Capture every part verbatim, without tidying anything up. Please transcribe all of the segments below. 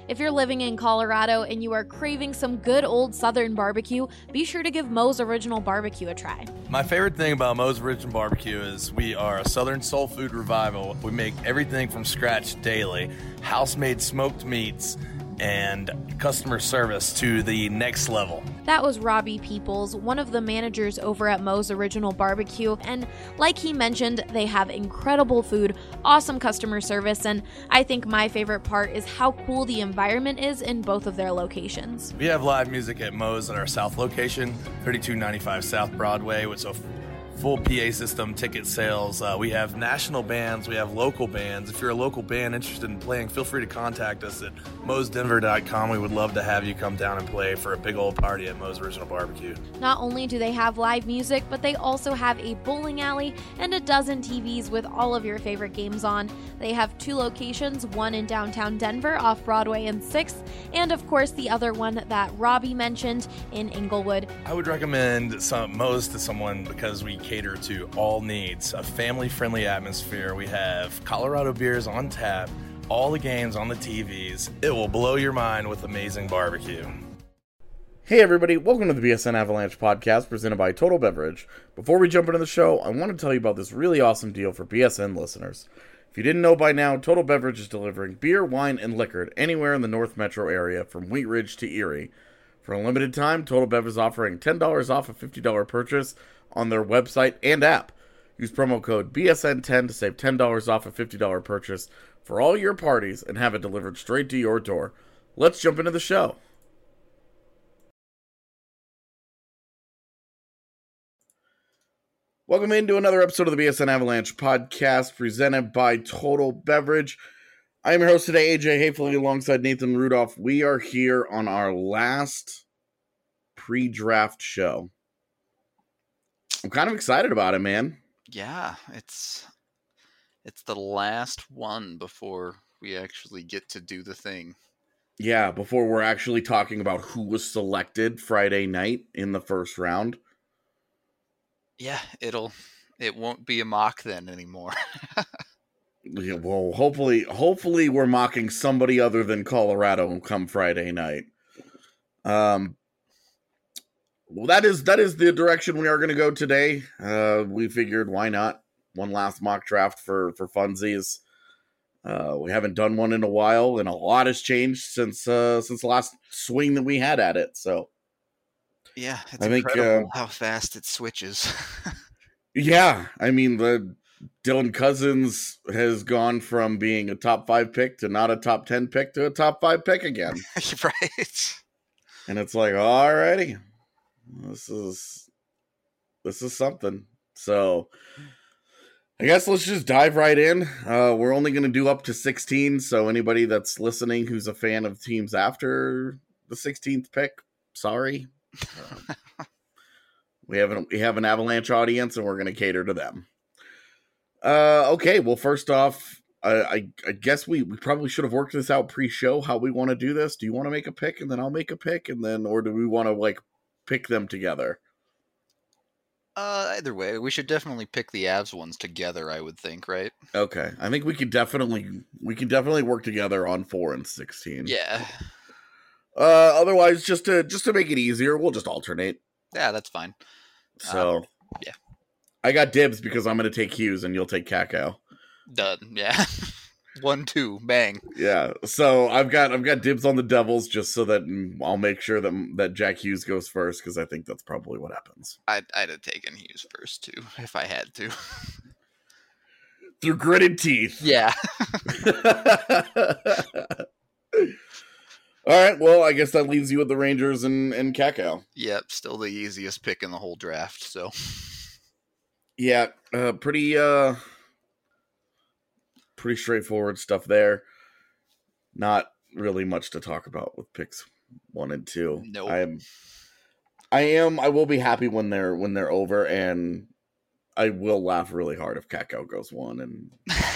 If you're living in Colorado and you are craving some good old Southern barbecue, be sure to give Moe's Original Barbecue a try. My favorite thing about Moe's Original Barbecue is we are a Southern soul food revival. We make everything from scratch daily, house-made smoked meats, and customer service to the next level. That was Robbie Peoples, one of the managers over at Moe's Original Barbecue, and like he mentioned, they have incredible food, awesome customer service, and I think my favorite part is how cool the environment is in both of their locations. We have live music at Moe's at our South location, thirty-two ninety-five South Broadway, with a full P A system, ticket sales. Uh, we have national bands, we have local bands. If you're a local band interested in playing, feel free to contact us at moes denver dot com. We would love to have you come down and play for a big old party at Moe's Original Barbecue. Not only do they have live music, but they also have a bowling alley and a dozen T Vs with all of your favorite games on. They have two locations, one in downtown Denver off Broadway and sixth, and of course the other one that Robbie mentioned in Inglewood. I would recommend some Moe's to someone because we cater to all needs, a family-friendly atmosphere. We have Colorado beers on tap, all the games on the T Vs. It will blow your mind with amazing barbecue. Hey everybody, welcome to the B S N Avalanche podcast presented by Total Beverage. Before we jump into the show, I want to tell you about this really awesome deal for B S N listeners. If you didn't know by now, Total Beverage is delivering beer, wine, and liquor anywhere in the North Metro area from Wheat Ridge to Erie. For a limited time, Total Bev is offering ten dollars off a fifty dollars purchase on their website and app. Use promo code B S N ten to save ten dollars off a fifty dollars purchase for all your parties and have it delivered straight to your door. Let's jump into the show. Welcome into another episode of the B S N Avalanche podcast presented by Total Beverage. I am your host today, A J Hayfley, alongside Nathan Rudolph. We are here on our last pre-draft show. I'm kind of excited about it, man. Yeah, it's it's the last one before we actually get to do the thing. Yeah, before we're actually talking about who was selected Friday night in the first round. Yeah, it'll it won't be a mock then anymore. Yeah, well, hopefully, hopefully we're mocking somebody other than Colorado come Friday night. Um, well, that is that is the direction we are going to go today. Uh, we figured why not one last mock draft for for funsies. Uh, we haven't done one in a while, and a lot has changed since uh, since the last swing that we had at it. So, yeah, it's I think incredible uh, how fast it switches. yeah, I mean the. Dylan Cousins has gone from being a top five pick to not a top ten pick to a top five pick again. Right. And it's like, alrighty, this is, this is something. So I guess let's just dive right in. Uh, we're only going to do up to sixteen. So anybody that's listening, who's a fan of teams after the sixteenth pick, sorry. Um, we have an, we have an Avalanche audience and we're going to cater to them. Uh, okay, well, first off, I, I, I guess we, we probably should have worked this out pre-show, how we want to do this. Do you want to make a pick, and then I'll make a pick, and then, or do we want to, like, pick them together? Uh, either way, we should definitely pick the Avs ones together, I would think, right? Okay, I think we could definitely, we can definitely work together on four and sixteen. Yeah. Uh, otherwise, just to, just to make it easier, we'll just alternate. Yeah, that's fine. So, um, yeah. I got dibs because I'm going to take Hughes and you'll take Kakao. Done. Yeah. One, two, bang. Yeah. So I've got I've got dibs on the Devils just so that I'll make sure that that Jack Hughes goes first because I think that's probably what happens. I'd I'd have taken Hughes first too if I had to. Through gritted teeth. Yeah. All right. Well, I guess that leaves you with the Rangers and and Kakao. Yep. Still the easiest pick in the whole draft. So. Yeah, uh, pretty, uh, pretty straightforward stuff there. Not really much to talk about with picks one and two. No, nope. I'm, I am, I will be happy when they're when they're over, and I will laugh really hard if Kakao goes one, and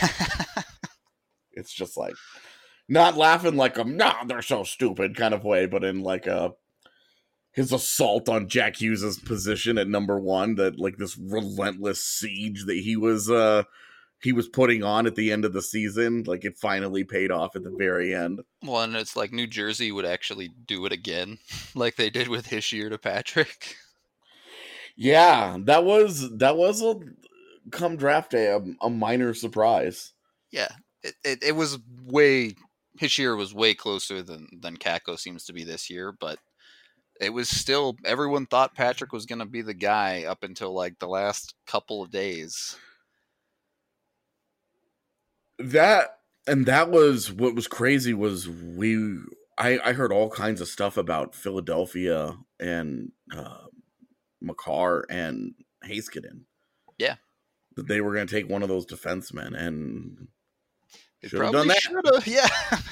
it's just like not laughing like a nah, they're so stupid kind of way, but in like a. His assault on Jack Hughes' position at number one, that like this relentless siege that he was uh, he was putting on at the end of the season. Like, it finally paid off at the very end. Well, and it's like New Jersey would actually do it again, like they did with Hischier to Patrick. Yeah, that was that was a come draft day a, a minor surprise. Yeah, it, it it was way Hischier was way closer than than Kakko seems to be this year, but it was still everyone thought Patrick was going to be the guy up until like the last couple of days. That and that was what was crazy was we I I heard all kinds of stuff about Philadelphia and uh, Makar and Heiskanen. Yeah, that they were going to take one of those defensemen, and they should have done that. Should have, yeah.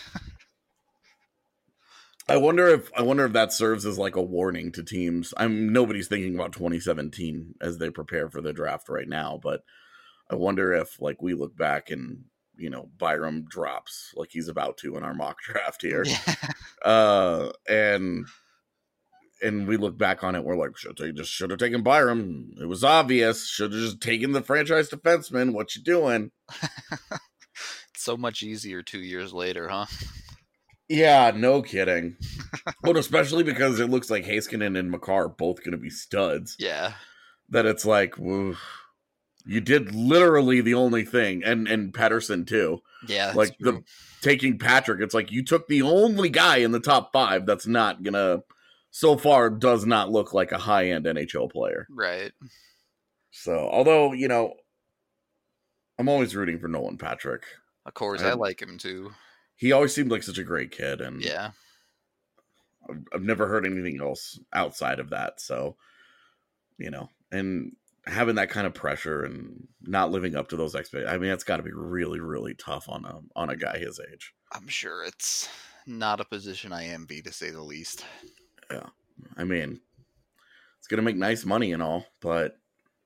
I wonder if I wonder if that serves as like a warning to teams. I'm nobody's thinking about twenty seventeen as they prepare for the draft right now, but I wonder if like we look back and you know Byram drops like he's about to in our mock draft here, Yeah. uh, and and we look back on it, we're like, should they just should have taken Byram? It was obvious. Should have just taken the franchise defenseman. What you doing? So much easier two years later, huh? Yeah, no kidding. But especially because it looks like Heiskanen and Makar are both going to be studs. Yeah. That it's like, woo, you did literally the only thing, and and Pettersson too. Yeah, that's like true. the taking Patrick. It's like you took the only guy in the top five that's not gonna. So far, does not look like a high end N H L player. Right. So, although you know, I'm always rooting for Nolan Patrick. Of course, I, I like him too. He always seemed like such a great kid, and yeah, I've, I've never heard anything else outside of that. So, you know, and having that kind of pressure and not living up to those expectations, I mean, it's got to be really, really tough on a on a guy his age. I'm sure it's not a position I envy, to say the least. Yeah, I mean, it's gonna make nice money and all, but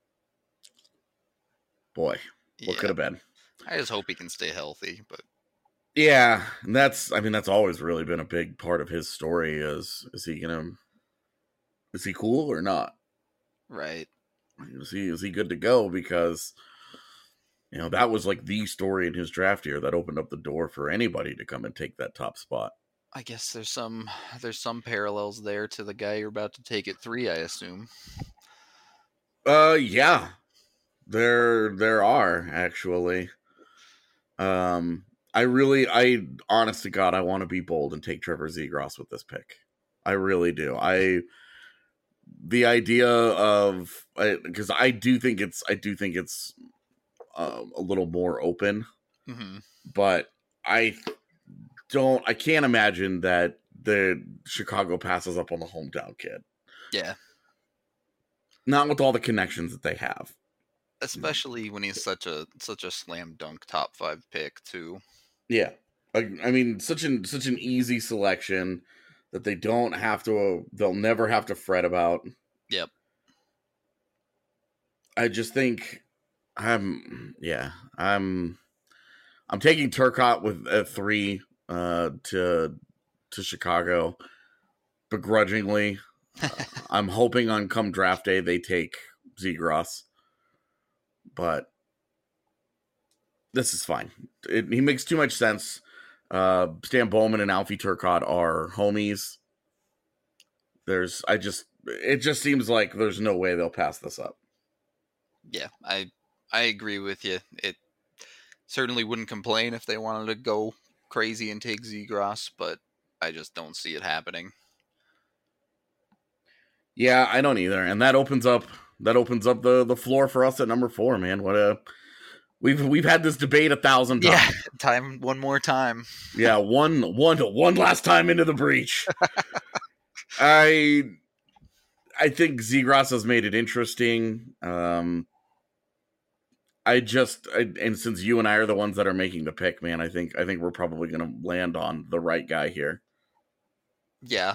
boy, what yeah. could have been? I just hope he can stay healthy, but yeah, and that's I mean that's always really been a big part of his story. Is is he gonna is he cool or not? Right. Is he is he good to go? Because you know that was like the story in his draft year that opened up the door for anybody to come and take that top spot. I guess there's some there's some parallels there to the guy you're about to take at three, I assume. Uh, yeah, there there are actually. Um, I really, I honest to God, I want to be bold and take Trevor Zegras with this pick. I really do. I the idea of because I, I do think it's I do think it's um, a little more open, mm-hmm. but I. Don't I can't imagine that the Chicago passes up on the hometown kid. Yeah. Not with all the connections that they have. Especially when he's such a such a slam dunk top five pick too. Yeah. I, I mean such an such an easy selection that they don't have to they'll never have to fret about. Yep. I just think I'm yeah, I'm I'm taking Turcotte with a three. Uh, to to Chicago, begrudgingly. Uh, I'm hoping on come draft day they take Zegras, but this is fine. It, he makes too much sense. Uh, Stan Bowman and Alfie Turcotte are homies. There's, I just, it just seems like there's no way they'll pass this up. Yeah, I I agree with you. It certainly wouldn't complain if they wanted to go crazy and take Zegras, but I just don't see it happening. Yeah, I don't either, and that opens up that opens up the, the floor for us at number four, man. What a we've we've had this debate a thousand times. Yeah, time one more time. Yeah, one one one last time into the breach. I I think Zegras has made it interesting. Um, I just, I, and since you and I are the ones that are making the pick, man, I think I think we're probably going to land on the right guy here. Yeah.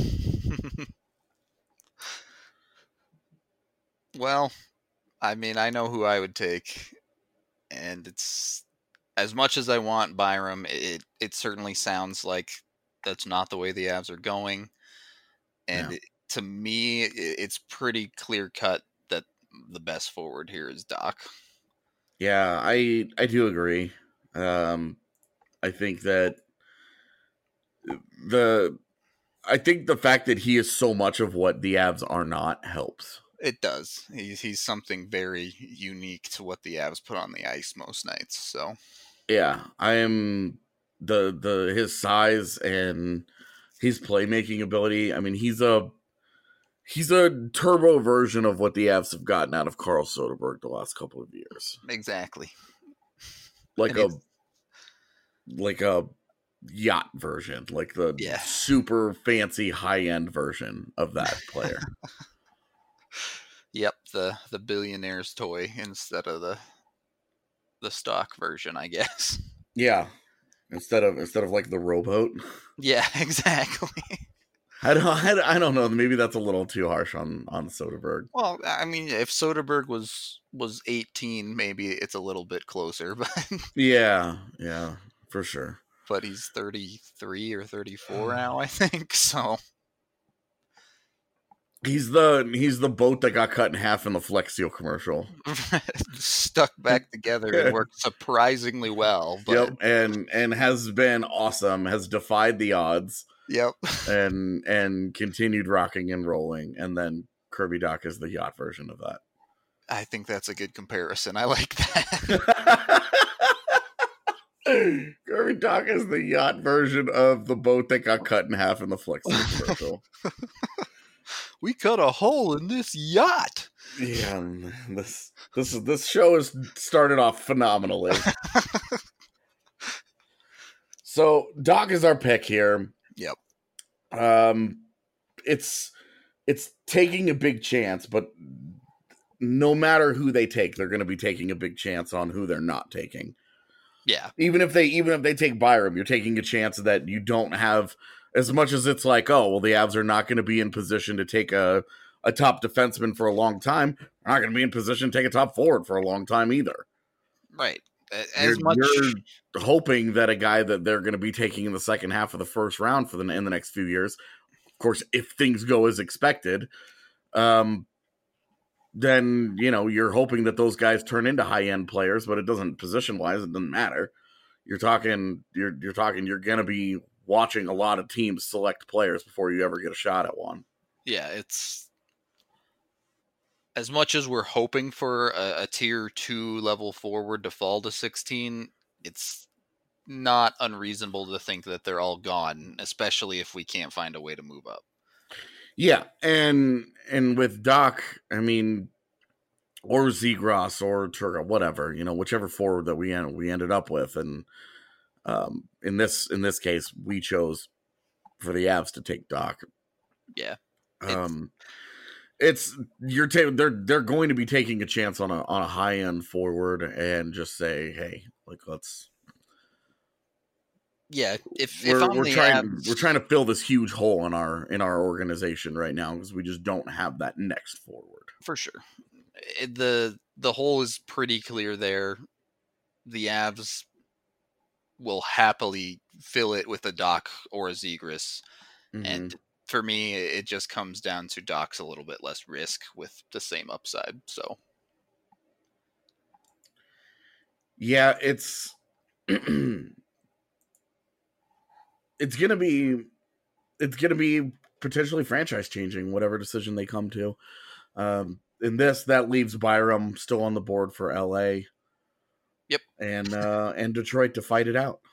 Well, I mean, I know who I would take, and it's as much as I want Byram. It it certainly sounds like that's not the way the Avs are going, and Yeah. it, to me, it, it's pretty clear cut that the best forward here is Doc. Yeah, I I do agree. Um, I think that the I think the fact that he is so much of what the Avs are not helps. It does. He's he's something very unique to what the Avs put on the ice most nights. So Yeah, I am the the his size and his playmaking ability. I mean, he's a he's a turbo version of what the Avs have gotten out of Carl Soderberg the last couple of years. exactly, Like and a it's, like a yacht version, like the Yeah. super fancy high end version of that player. yep, the the billionaire's toy instead of the the stock version, I guess. Yeah, instead of instead of like the rowboat. Yeah, exactly. I don't I, don't- I don't know. Maybe that's a little too harsh on on Soderberg. Well, I mean, if Soderberg was was eighteen, maybe it's a little bit closer, but Yeah, yeah, for sure. but he's thirty-three or thirty-four now, I think. So He's the he's the boat that got cut in half in the Flex Seal commercial. stuck back together and worked surprisingly well. But Yep, and and has been awesome. Has defied the odds yep. and and continued rocking and rolling. And then Kirby Doc is the yacht version of that. I think that's a good comparison. I like that. Kirby Doc is the yacht version of the boat that got cut in half in the Flex Seal commercial. We cut a hole in this yacht. Yeah, this this is this show has started off phenomenally. So Doc is our pick here. Yep. Um, it's it's taking a big chance, but no matter who they take, they're going to be taking a big chance on who they're not taking. Yeah. Even if they even if they take Byram, you're taking a chance that you don't have as much as it's like, oh, well, the Avs are not going to be in position to take a a top defenseman for a long time. They're not going to be in position to take a top forward for a long time either. Right. As You're, much you're hoping that a guy that they're going to be taking in the second half of the first round for the in the next few years, of course, if things go as expected, um, then you know you're hoping that those guys turn into high end players. But it doesn't position wise. It doesn't matter. You're talking. You're you're talking. You're going to be watching a lot of teams select players before you ever get a shot at one. yeah, it's as much as we're hoping for a, a tier two level forward to fall to sixteen, it's not unreasonable to think that they're all gone, especially if we can't find a way to move up. Yeah, and and with Doc, I mean, or Zegras or Turga, whatever, you know, whichever forward that we end, we ended up with, and um, in this in this case, we chose for the Avs to take Doc. Yeah, Um, it's you're ta- they're they're going to be taking a chance on a on a high end forward and just say, hey, like let's yeah. If we're if I'm we're the trying Avs, we're trying to fill this huge hole in our in our organization right now because we just don't have that next forward. for sure. It- the The hole is pretty clear there. The Avs will happily fill it with a Doc or a Zegras. Mhm. And for me, it just comes down to Doc's a little bit less risk with the same upside. So Yeah, it's it's gonna be it's gonna be potentially franchise changing, whatever decision they come to. Um, in this, that leaves Byram still on the board for L A. Yep. And uh, and Detroit to fight it out.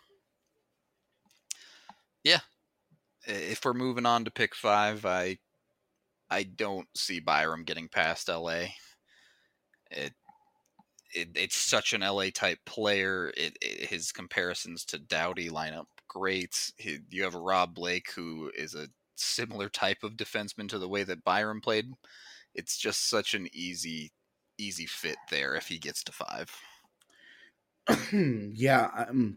if we're moving on to pick five, I I don't see Byram getting past L A. It, it it's such an L A type player. It, it his comparisons to Doughty line up great. He, you have Rob Blake, who is a similar type of defenseman to the way that Byram played. It's just such an easy easy fit there if he gets to five. Yeah. Um,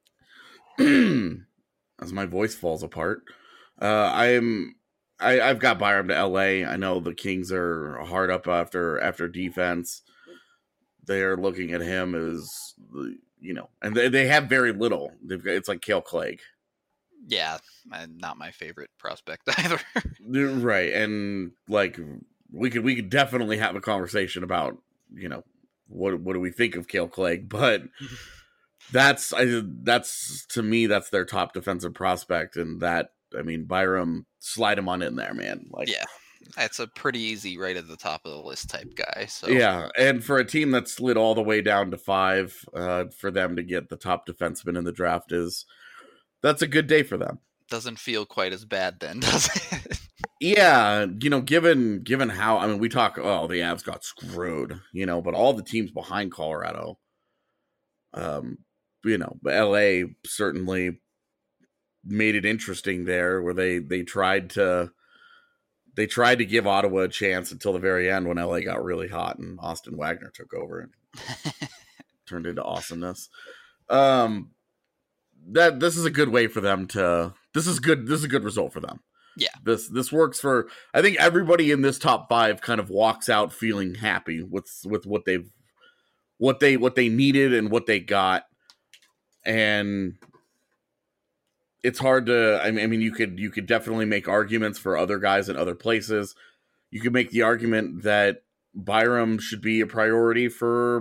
as my voice falls apart, uh, I'm I, I've got Byram to L A. I know the Kings are hard up after after defense. They're looking at him as you know, and they, they have very little. They've got it's like Cale Clegg, Yeah, and not my favorite prospect either. right? And like we could we could definitely have a conversation about you know what what do we think of Kale Clegg? But that's I that's to me that's their top defensive prospect, and that I mean Byram, slide him on in there, man. Like yeah, that's a pretty easy right at the top of the list type guy. So yeah, and for a team that slid all the way down to five, uh, for them to get the top defenseman in the draft is that's a good day for them. Doesn't feel quite as bad then, does it? Yeah, you know, given given how I mean, we talk. Oh, the Avs got screwed, you know, but all the teams behind Colorado, um, you know, L A certainly made it interesting there, where they they tried to they tried to give Ottawa a chance until the very end when L A got really hot and Austin Wagner took over and turned into awesomeness. Um, that this is a good way for them to. This is good. This is a good result for them. Yeah, this this works for. I think everybody in this top five kind of walks out feeling happy with with what they've what they what they needed and what they got, and it's hard to. I mean, I mean, you could you could definitely make arguments for other guys in other places. You could make the argument that Byram should be a priority for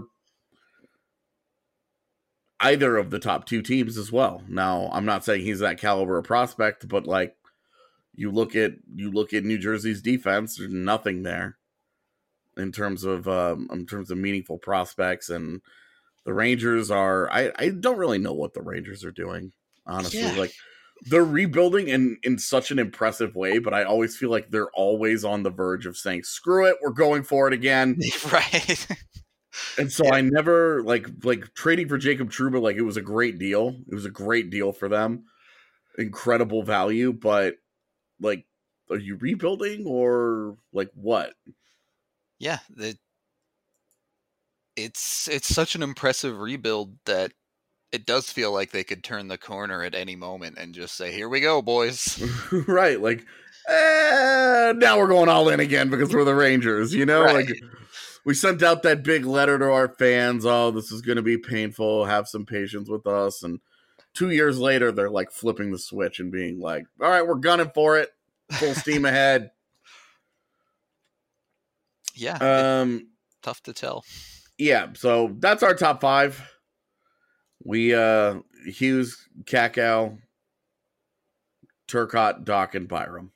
either of the top two teams as well. Now, I'm not saying he's that caliber of prospect, but like. You look at you look at New Jersey's defense. There's nothing there in terms of um, in terms of meaningful prospects, and the Rangers are. I, I don't really know what the Rangers are doing, honestly. Yeah. Like they're rebuilding in in such an impressive way, but I always feel like they're always on the verge of saying, "Screw it, we're going for it again." Right. And so Yeah. I never like like trading for Jacob Trouba. Like it was a great deal. It was a great deal for them, incredible value, but. Like, are you rebuilding or like what? Yeah, the, it's it's such an impressive rebuild that it does feel like they could turn the corner at any moment and just say, "Here we go, boys." Right, like, eh, now we're going all in again because we're the Rangers, you know? Right. Like, we sent out that big letter to our fans. Oh, this is going to be painful. Have some patience with us. And two years later, they're like flipping the switch and being like, all right, we're gunning for it. Full steam ahead. Yeah. Um, tough to tell. Yeah. So that's our top five. We, uh, Hughes, Kakao, Turcotte, Doc, and Byram.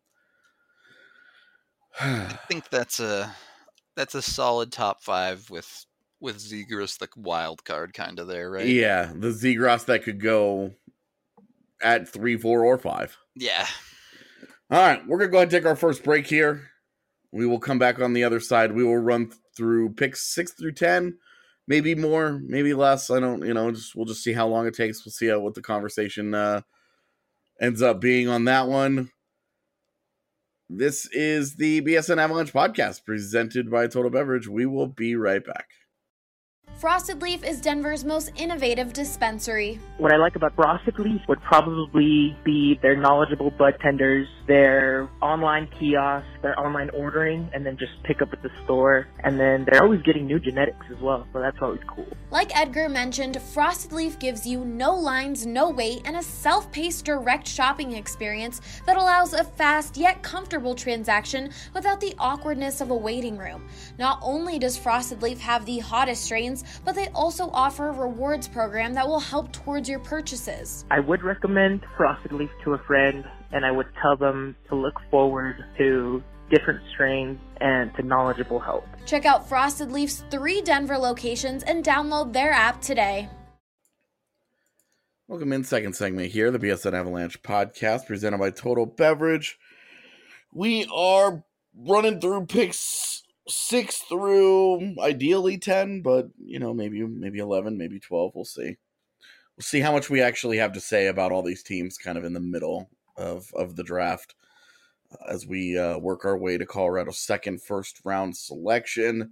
I think that's a that's a solid top five with with Zegras the wild card kind of there, right? Yeah, the Zegras that could go at three, four, or five. Yeah. All right, we're gonna go ahead and take our first break here. We will come back on the other side. We will run through picks six through ten, maybe more, maybe less. I don't, you know, just we'll just see how long it takes. We'll see how what the conversation uh, ends up being on that one. This is the B S N Avalanche podcast presented by Total Beverage. We will be right back. Frosted Leaf is Denver's most innovative dispensary. What I like about Frosted Leaf would probably be their knowledgeable bud tenders, their online kiosk, their online ordering, and then just pick up at the store. And then they're always getting new genetics as well, so that's always cool. Like Edgar mentioned, Frosted Leaf gives you no lines, no wait, and a self-paced direct shopping experience that allows a fast yet comfortable transaction without the awkwardness of a waiting room. Not only does Frosted Leaf have the hottest strains, but they also offer a rewards program that will help towards your purchases. I would recommend Frosted Leaf to a friend, and I would tell them to look forward to different strains and to knowledgeable help. Check out Frosted Leaf's three Denver locations and download their app today. Welcome in, second segment here, the B S N Avalanche podcast presented by Total Beverage. We are running through picks six through ideally ten, but you know, maybe maybe eleven, maybe twelve. We'll see. We'll see how much we actually have to say about all these teams kind of in the middle of, of the draft uh, as we uh, work our way to Colorado's second first round selection.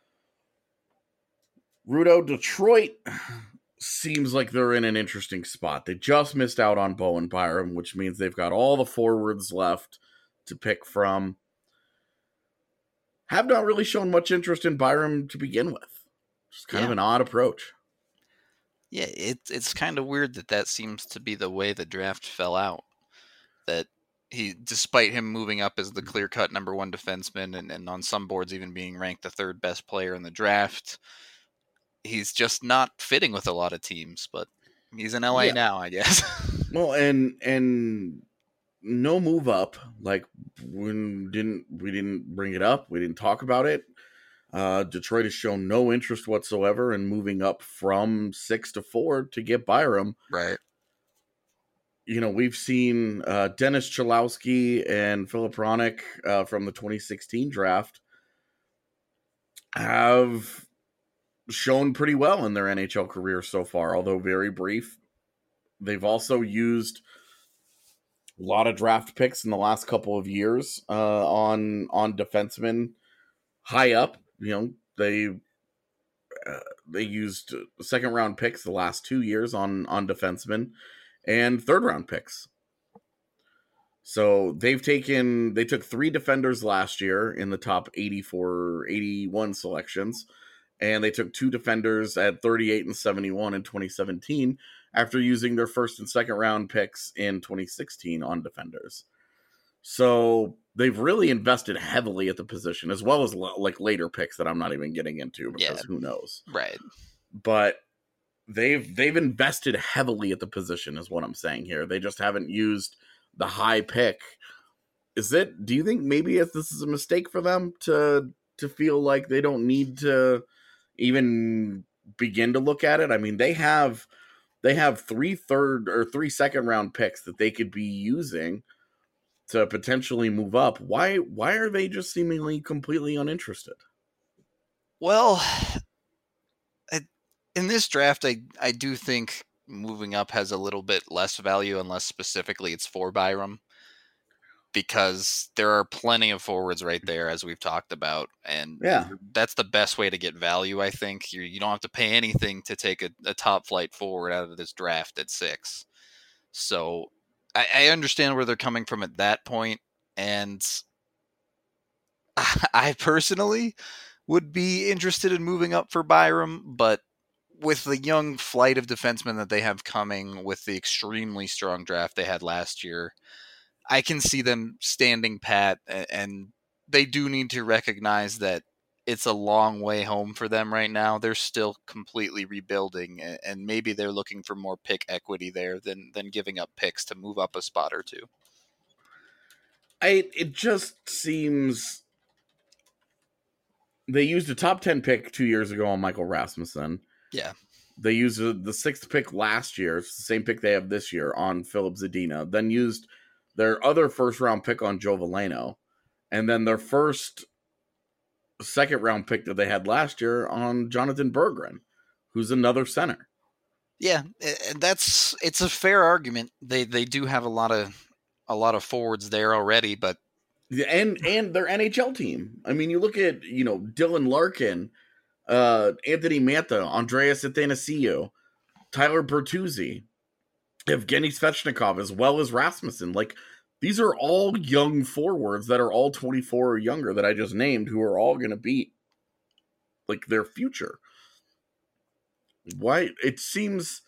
Rudo, Detroit seems like they're in an interesting spot. They just missed out on Bowen Byram, which means they've got all the forwards left to pick from. Have not really shown much interest in Byram to begin with. Just kind Yeah. of an odd approach. Yeah, it's it's kind of weird that that seems to be the way the draft fell out. That he, despite him moving up as the clear-cut number one defenseman, and, and on some boards even being ranked the third best player in the draft, he's just not fitting with a lot of teams. But he's in L A Yeah. now, I guess. Well, and and no move up. Like when didn't we didn't bring it up. We didn't talk about it. Uh, Detroit has shown no interest whatsoever in moving up from six to four to get Byram. Right. You know, we've seen uh, Dennis Chalowski and Philip Ronick uh, from the twenty sixteen draft have shown pretty well in their N H L career so far, although very brief. They've also used a lot of draft picks in the last couple of years uh, on on defensemen high up. You know, they uh, they used second round picks the last two years on on defensemen and third round picks. So they've taken they took three defenders last year in the top eighty-four, eighty-one selections, and they took two defenders at thirty-eight and seventy-one in twenty seventeen after using their first and second round picks in twenty sixteen on defenders. So they've really invested heavily at the position, as well as like later picks that I'm not even getting into because Yeah. who knows. Right. But they've they've invested heavily at the position is what I'm saying here. They just haven't used the high pick. Is it, do you think maybe if this is a mistake for them to to feel like they don't need to even begin to look at it? I mean, they have they have three third or three second round picks that they could be using to potentially move up. Why why are they just seemingly completely uninterested? Well, I, in this draft, I I do think moving up has a little bit less value unless specifically it's for Byram, because there are plenty of forwards right there, as we've talked about, and Yeah. that's the best way to get value. I think you you don't have to pay anything to take a, a top flight forward out of this draft at six. So I, I understand where they're coming from at that point, and I personally would be interested in moving up for Byram, but with the young flight of defensemen that they have coming, with the extremely strong draft they had last year, I can see them standing pat, and they do need to recognize that it's a long way home for them right now. They're still completely rebuilding, and maybe they're looking for more pick equity there than than giving up picks to move up a spot or two. I it just seems they used a top ten pick two years ago on Michael Rasmussen. Yeah. They used a, the sixth pick last year, it's the same pick they have this year, on Philip Zadina. Then used their other first round pick on Joe Veleno. And then their first second round pick that they had last year on Jonathan Berggren, who's another center. Yeah, and that's it's a fair argument. They they do have a lot of a lot of forwards there already, but And and their N H L team. I mean, you look at, you know, Dylan Larkin, uh, Anthony Mantha, Andreas Athanasiou, Tyler Bertuzzi, Evgeny Svechnikov, as well as Rasmussen. Like, these are all young forwards that are all twenty-four or younger that I just named, who are all going to be, like, their future. Why? It seems...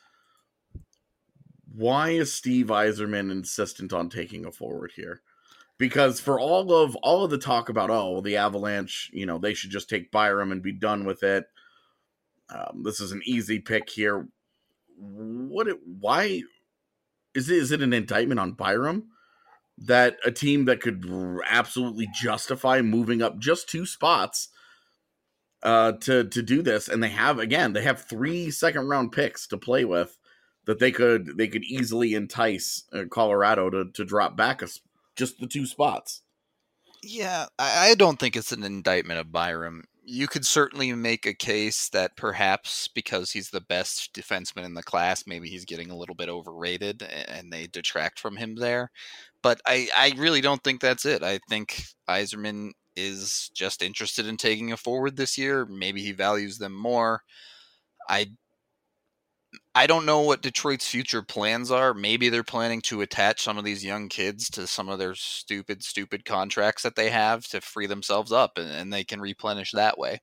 Why is Steve Yzerman insistent on taking a forward here? Because for all of all of the talk about, oh, well, the Avalanche, you know, they should just take Byram and be done with it. Um, this is an easy pick here. What? It, why is it? Is it an indictment on Byram that a team that could absolutely justify moving up just two spots uh, to to do this, and they have again, they have three second round picks to play with that they could they could easily entice uh, Colorado to to drop back a just the two spots. yeah, I, I don't think it's an indictment of Byram. You could certainly make a case that perhaps because he's the best defenseman in the class, maybe he's getting a little bit overrated and they detract from him there. But I, I really don't think that's it. I think Yzerman is just interested in taking a forward this year. Maybe he values them more. I I don't know what Detroit's future plans are. Maybe they're planning to attach some of these young kids to some of their stupid, stupid contracts that they have to free themselves up, and, and they can replenish that way.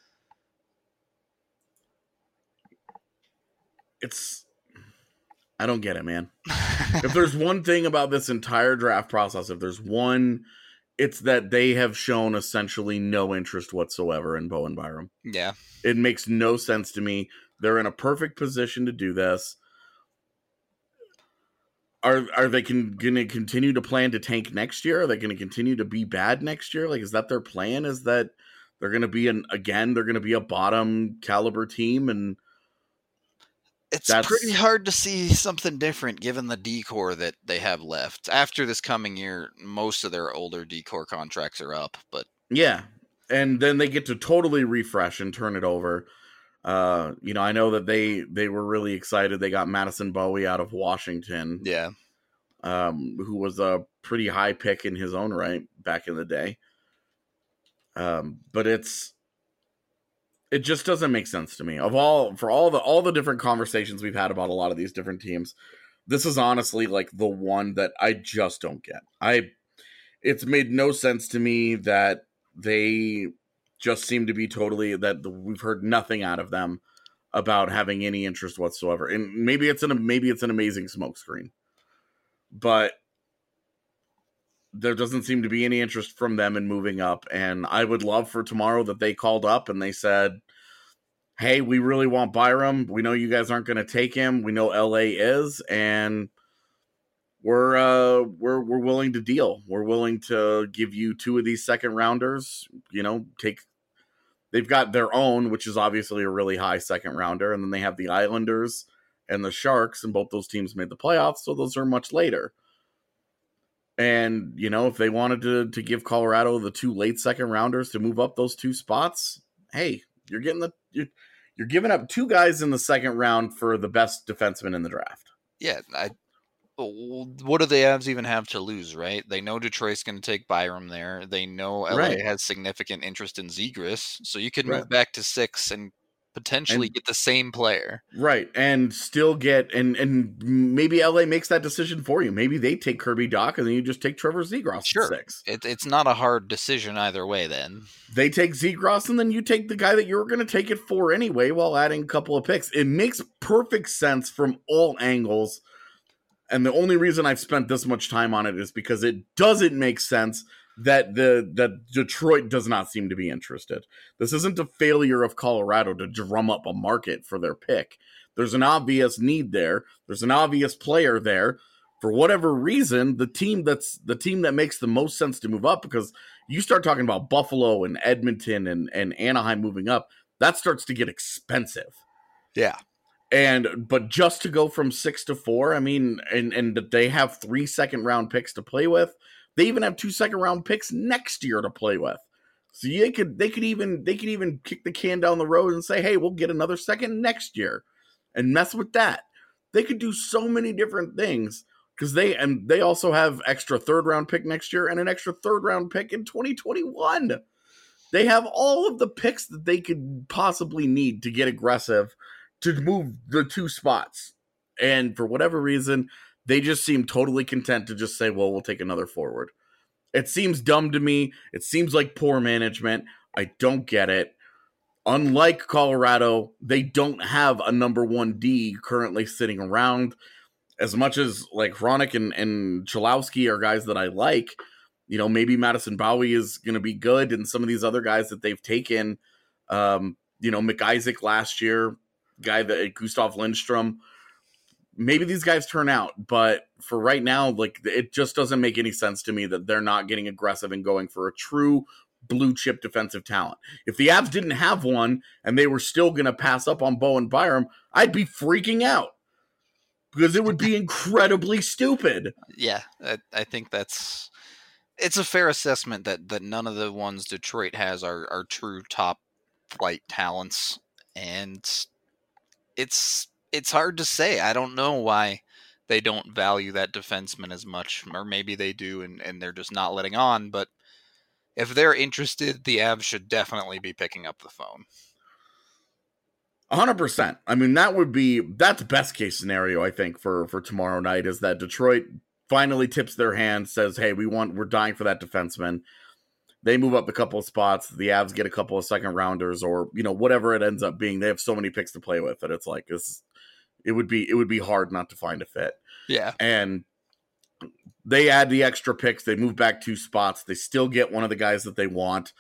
It's, I don't get it, man. If there's one thing about this entire draft process, if there's one it's that they have shown essentially no interest whatsoever in Bowen Byram. Yeah. It makes no sense to me. They're in a perfect position to do this. Are are they going to continue to plan to tank next year? Are they going to continue to be bad next year? Like, is that their plan? Is that they're going to be an again? They're going to be a bottom caliber team, and it's that's pretty hard to see something different given the D-core that they have left. After this coming year, most of their older D-core contracts are up, but yeah, and then they get to totally refresh and turn it over. Uh, you know, I know that they they were really excited. They got Madison Bowie out of Washington, yeah, um, who was a pretty high pick in his own right back in the day. Um, but it's it just doesn't make sense to me. Of all for all the all the different conversations we've had about a lot of these different teams, this is honestly like the one that I just don't get. I it's made no sense to me that they just seem to be totally that we've heard nothing out of them about having any interest whatsoever. And maybe it's an maybe it's an amazing smokescreen, but there doesn't seem to be any interest from them in moving up. And I would love for tomorrow that they called up and they said, "Hey, we really want Byram. We know you guys aren't going to take him. We know L A is, and we're uh, we're we're willing to deal. We're willing to give you two of these second rounders. You know, take." They've got their own, which is obviously a really high second rounder, and then they have the Islanders and the Sharks, and both those teams made the playoffs, so those are much later. And, you know, if they wanted to, to give Colorado the two late second rounders to move up those two spots, hey, you're getting the you're, you're giving up two guys in the second round for the best defenseman in the draft. Yeah, I. What do the Avs even have to lose, right? They know Detroit's going to take Byram there. They know L A Right. has significant interest in Zegras, so you could Right. move back to six and potentially And- get the same player. Right, and still get and and maybe L A makes that decision for you. Maybe they take Kirby Dach and then you just take Trevor Zegras Sure. at six. It, it's not a hard decision either way then. They take Zegras and then you take the guy that you were going to take it for anyway while adding a couple of picks. It makes perfect sense from all angles. And the only reason I've spent this much time on it is because it doesn't make sense that the that Detroit does not seem to be interested. This isn't a failure of Colorado to drum up a market for their pick. There's an obvious need there. There's an obvious player there. For whatever reason, the team that's the team that makes the most sense to move up, because you start talking about Buffalo and Edmonton and, and Anaheim moving up, that starts to get expensive. Yeah. And but just to go from six to four, I mean, and and they have three second round picks to play with. They even have two second round picks next year to play with. So they could they could even they could even kick the can down the road and say, hey, we'll get another second next year, and mess with that. They could do so many different things because they and they also have extra third round pick next year and an extra third round pick in twenty twenty-one. They have all of the picks that they could possibly need to get aggressive to move the two spots. And for whatever reason, they just seem totally content to just say, well, we'll take another forward. It seems dumb to me. It seems like poor management. I don't get it. Unlike Colorado, they don't have a number one D currently sitting around. As much as like Hronik and, and Cholowski are guys that I like, you know, maybe Madison Bowie is going to be good. And some of these other guys that they've taken, um, you know, McIsaac last year, guy that Gustav Lindstrom, maybe these guys turn out, but for right now, like it just doesn't make any sense to me that they're not getting aggressive and going for a true blue chip defensive talent. If the Avs didn't have one and they were still going to pass up on Bowen Byram, I'd be freaking out because it would be incredibly stupid. Yeah, I, I think that's it's a fair assessment that that none of the ones Detroit has are are true top flight talents, and it's it's hard to say. I don't know why they don't value that defenseman as much, or maybe they do and, and they're just not letting on, but if they're interested, the Avs should definitely be picking up the phone. one hundred percent. I mean, that would be, that's best case scenario, I think, for, for tomorrow night, is that Detroit finally tips their hand, says, hey, we want, we're dying for that defenseman. They move up a couple of spots. The Avs get a couple of second rounders, or, you know, whatever it ends up being. They have so many picks to play with that it's like, this, it would be, it would be hard not to find a fit. Yeah. And they add the extra picks. They move back two spots. They still get one of the guys that they want.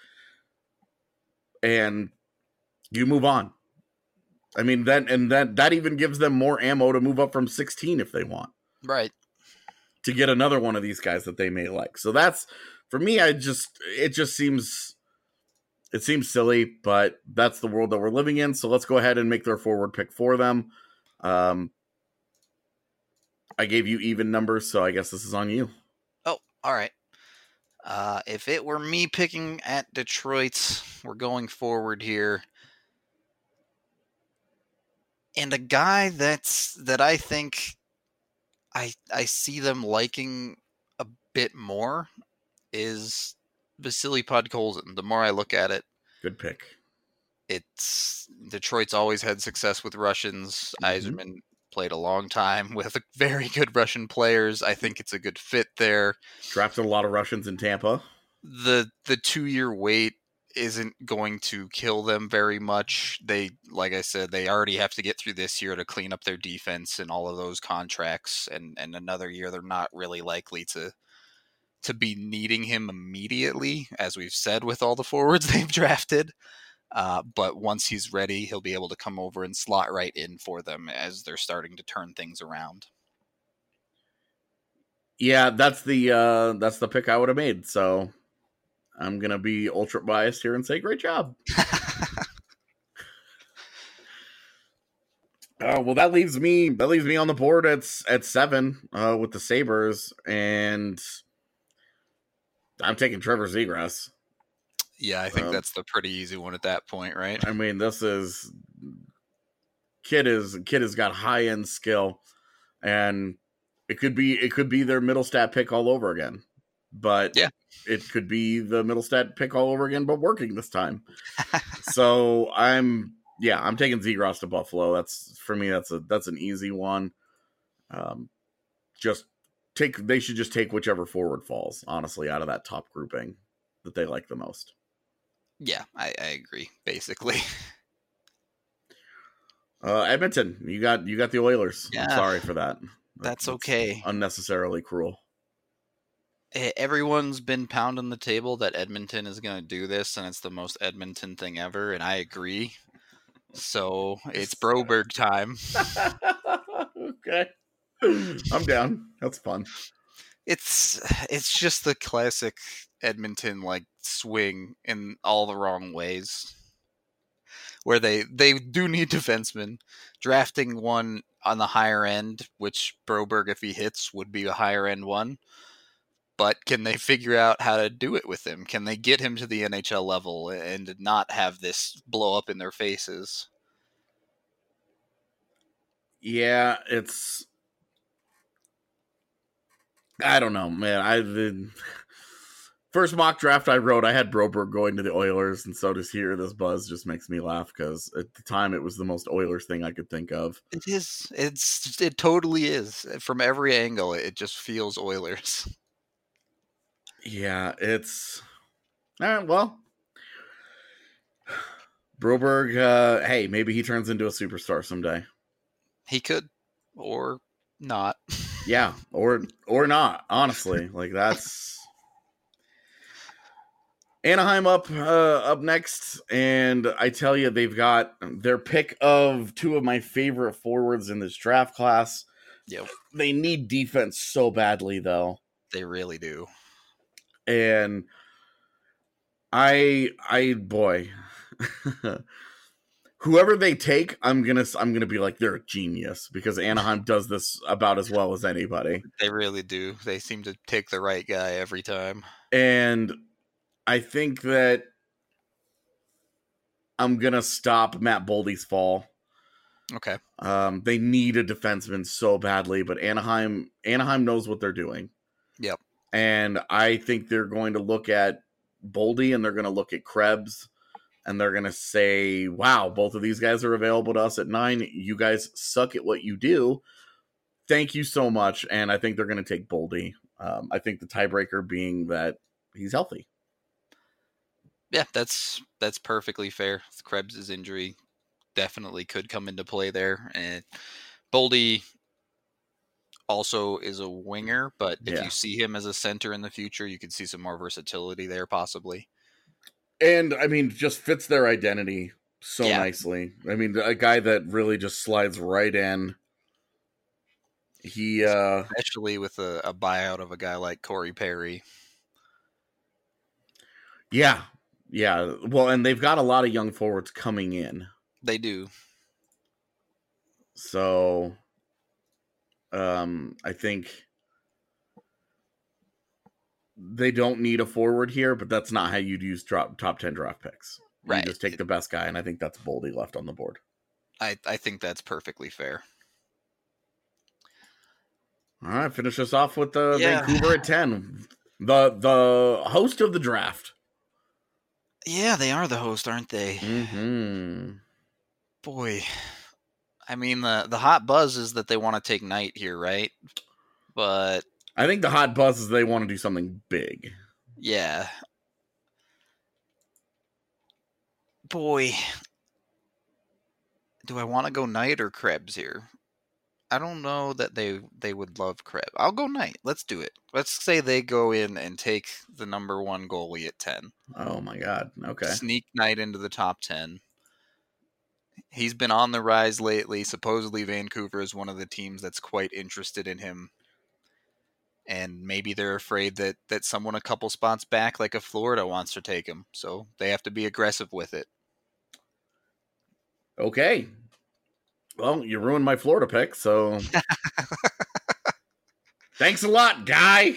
And you move on. I mean, that and that that even gives them more ammo to move up from sixteen if they want. Right. To get another one of these guys that they may like. So that's, for me, I just, it just seems, it seems silly, but that's the world that we're living in. So let's go ahead and make their forward pick for them. Um, I gave you even numbers, so I guess this is on you. Oh, all right. Uh, if it were me picking at Detroit, we're going forward here. And a guy that's that I think I I see them liking a bit more is Vasily Podkolzin. The more I look at it, good pick. It's Detroit's always had success with Russians. Mm-hmm. Yzerman played a long time with very good Russian players. I think it's a good fit there. Drafted a lot of Russians in Tampa. The the two year wait isn't going to kill them very much. They, like I said, they already have to get through this year to clean up their defense and all of those contracts, and, and another year they're not really likely to to be needing him immediately, as we've said with all the forwards they've drafted. Uh, but once he's ready, he'll be able to come over and slot right in for them as they're starting to turn things around. Yeah, that's the uh, that's the pick I would have made. So I'm gonna be ultra biased here and say, great job. uh, well, that leaves me that leaves me on the board at at seven uh, with the Sabres, and I'm taking Trevor Zegras. Yeah, I think um, that's the pretty easy one at that point, right? I mean, this is kid is kid has got high end skill, and it could be it could be their middle stat pick all over again. But yeah, it could be the middle stat pick all over again, but working this time. So I'm, yeah, I'm taking Zegras to Buffalo. That's for me. That's a that's an easy one. Um, just take. They should just take whichever forward falls. Honestly, out of that top grouping that they like the most. Yeah, I, I agree. Basically, uh, Edmonton, you got you got the Oilers. Yeah, I'm sorry for that. That's, that's okay. Unnecessarily cruel. Everyone's been pounding the table that Edmonton is going to do this, and it's the most Edmonton thing ever, and I agree. So it's Broberg time. Okay, I'm down. That's fun. It's it's just the classic Edmonton like swing in all the wrong ways, where they they do need defensemen. Drafting one on the higher end, which Broberg, if he hits, would be a higher end one. But can they figure out how to do it with him? Can they get him to the N H L level and not have this blow up in their faces? Yeah, it's... I don't know, man. I the first mock draft I wrote, I had Broberg going to the Oilers, and so to hear this buzz just makes me laugh, because at the time it was the most Oilers thing I could think of. It is. It's. It totally is. From every angle, it just feels Oilers. Yeah, it's... All right, well... Broberg, uh, hey, maybe he turns into a superstar someday. He could, or not. Yeah, or or not, honestly. Like, that's... Anaheim up uh, up next, and I tell you, they've got their pick of two of my favorite forwards in this draft class. Yep. They need defense so badly, though. They really do. And I, I, boy, whoever they take, I'm gonna, I'm gonna be like, they're a genius, because Anaheim does this about as well as anybody. They really do. They seem to take the right guy every time. And I think that I'm gonna stop Matt Boldy's fall. Okay. Um, they need a defenseman so badly, but Anaheim, Anaheim knows what they're doing. Yep. And I think they're going to look at Boldy, and they're going to look at Krebs, and they're going to say, wow, both of these guys are available to us at nine. You guys suck at what you do. Thank you so much. And I think they're going to take Boldy. Um, I think the tiebreaker being that he's healthy. Yeah, that's that's perfectly fair. Krebs' injury definitely could come into play there. And Boldy also is a winger, but if Yeah. you see him as a center in the future, you could see some more versatility there possibly. And, I mean, just fits their identity so Yeah. nicely. I mean, a guy that really just slides right in. He, uh... Especially with a, a buyout of a guy like Corey Perry. Yeah. Yeah. Well, and they've got a lot of young forwards coming in. They do. So, um, I think they don't need a forward here, but that's not how you'd use drop, top ten draft picks. You Right. just take the best guy, and I think that's Boldy left on the board. I, I think that's perfectly fair. All right, finish us off with the Yeah. Vancouver at ten. The the host of the draft. Yeah, they are the host, aren't they? Mm-hmm. Boy. I mean, the, the hot buzz is that they want to take Knight here, right? But, I think the hot buzz is they want to do something big. yeah. Boy. Do I want to go Knight or Krebs here? I don't know that they they would love Krebs. I'll go Knight. Let's do it. Let's say they go in and take the number one goalie at ten. Oh, my God. Okay. Sneak Knight into the top ten. He's been on the rise lately. Supposedly Vancouver is one of the teams that's quite interested in him. And maybe they're afraid that, that someone a couple spots back, like a Florida, wants to take him. So they have to be aggressive with it. Okay. Well, you ruined my Florida pick, so... Thanks a lot, guy!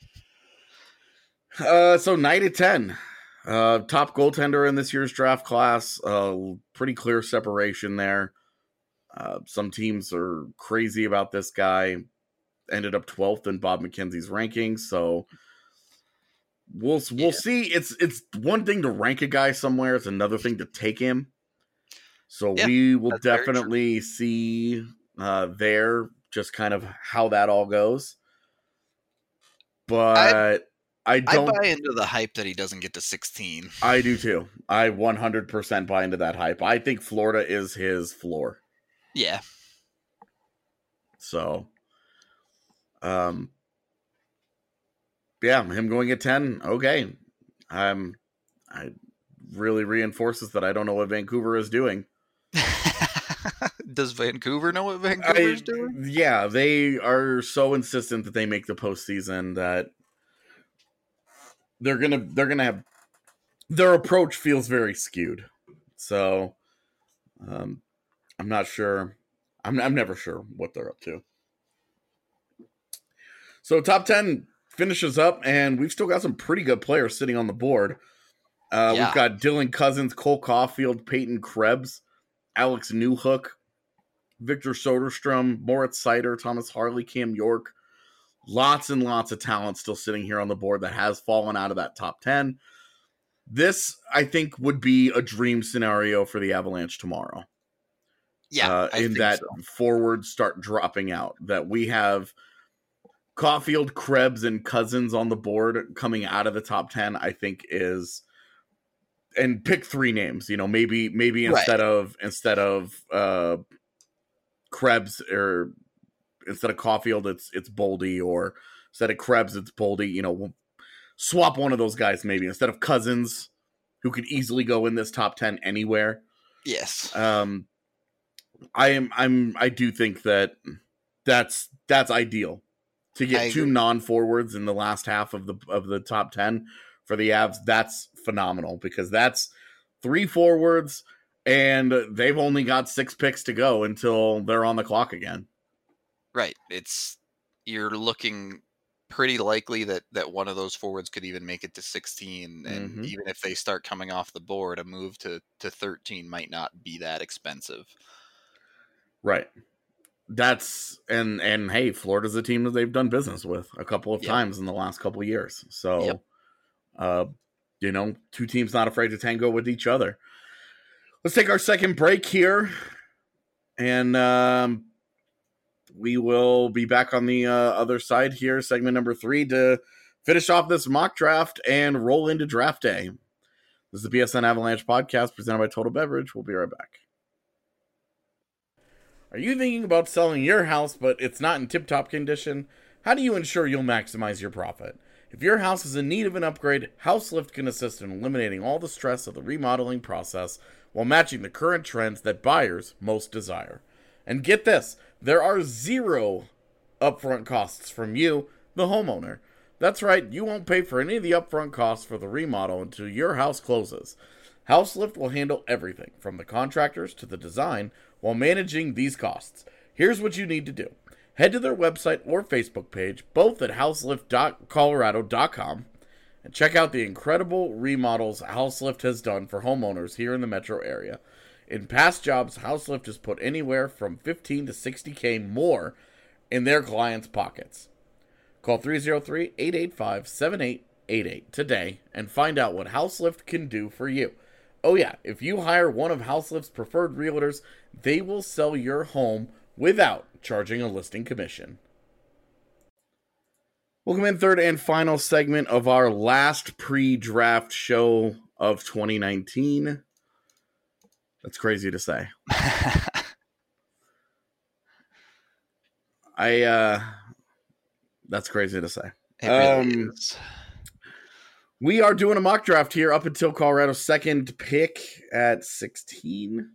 Uh, so, Knight at ten. Uh, top goaltender in this year's draft class. Uh, pretty clear separation there. Uh, some teams are crazy about this guy. Ended up twelfth in Bob McKenzie's rankings, so... We'll we'll Yeah. see. It's it's one thing to rank a guy somewhere. It's another thing to take him. So Yeah, we will that's very true. definitely see uh, there just kind of how that all goes. But I, I don't. buy into the hype that he doesn't get to sixteen. I do too. I one hundred percent buy into that hype. I think Florida is his floor. Yeah. So, um, yeah, him going at ten. Okay, um, I really reinforces that I don't know what Vancouver is doing. Does Vancouver know what Vancouver's I- doing? Yeah, they are so insistent that they make the postseason that they're gonna they're gonna have their approach feels very skewed. So, um, I'm not sure. I'm I'm never sure what they're up to. So top ten finishes up, and we've still got some pretty good players sitting on the board. Uh, Yeah. We've got Dylan Cousins, Cole Caulfield, Peyton Krebs, Alex Newhook, Victor Soderstrom, Moritz Seider, Thomas Harley, Cam York. Lots and lots of talent still sitting here on the board that has fallen out of that top ten. This, I think, would be a dream scenario for the Avalanche tomorrow. Yeah, Uh, I in think that so. forwards start dropping out. That we have Caulfield, Krebs, and Cousins on the board coming out of the top ten, I think is... And pick three names, you know, maybe maybe Right. instead of instead of uh, Krebs or instead of Caulfield, it's it's Boldy, or instead of Krebs, it's Boldy. You know, we'll swap one of those guys maybe instead of Cousins, who could easily go in this top ten anywhere. Yes. Um, I am I'm I do think that that's that's ideal to I get two agree. non-forwards in the last half of the of the top ten for the Avs. That's phenomenal because that's three forwards and they've only got six picks to go until they're on the clock again. Right. It's you're looking pretty likely that, that one of those forwards could even make it to sixteen. And Mhm. even if they start coming off the board, a move to, to thirteen might not be that expensive. Right. That's and and hey, Florida's a team that they've done business with a couple of Yep. times in the last couple of years. So Yep. uh you know, two teams not afraid to tango with each other. Let's take our second break here. And um we will be back on the uh, other side here, segment number three, to finish off this mock draft and roll into draft day. This is the B S N Avalanche podcast presented by Total Beverage. We'll be right back. Are you thinking about selling your house, but it's not in tip-top condition? How do you ensure you'll maximize your profit? If your house is in need of an upgrade, HouseLift can assist in eliminating all the stress of the remodeling process while matching the current trends that buyers most desire. And get this, there are zero upfront costs from you, the homeowner. That's right, you won't pay for any of the upfront costs for the remodel until your house closes. HouseLift will handle everything, from the contractors to the design, while managing these costs. Here's what you need to do. Head to their website or Facebook page, both at houselift dot colorado dot com, and check out the incredible remodels HouseLift has done for homeowners here in the metro area. In past jobs, HouseLift has put anywhere from fifteen to sixty K more in their clients' pockets. Call three oh three, eight eight five, seven eight eight eight today and find out what HouseLift can do for you. Oh yeah, if you hire one of HouseLift's preferred realtors, they will sell your home without charging a listing commission. Welcome in, third and final segment of our last pre-draft show of twenty nineteen. That's crazy to say. I, uh, that's crazy to say. It really um, is. We are doing a mock draft here up until Colorado's second pick at sixteen.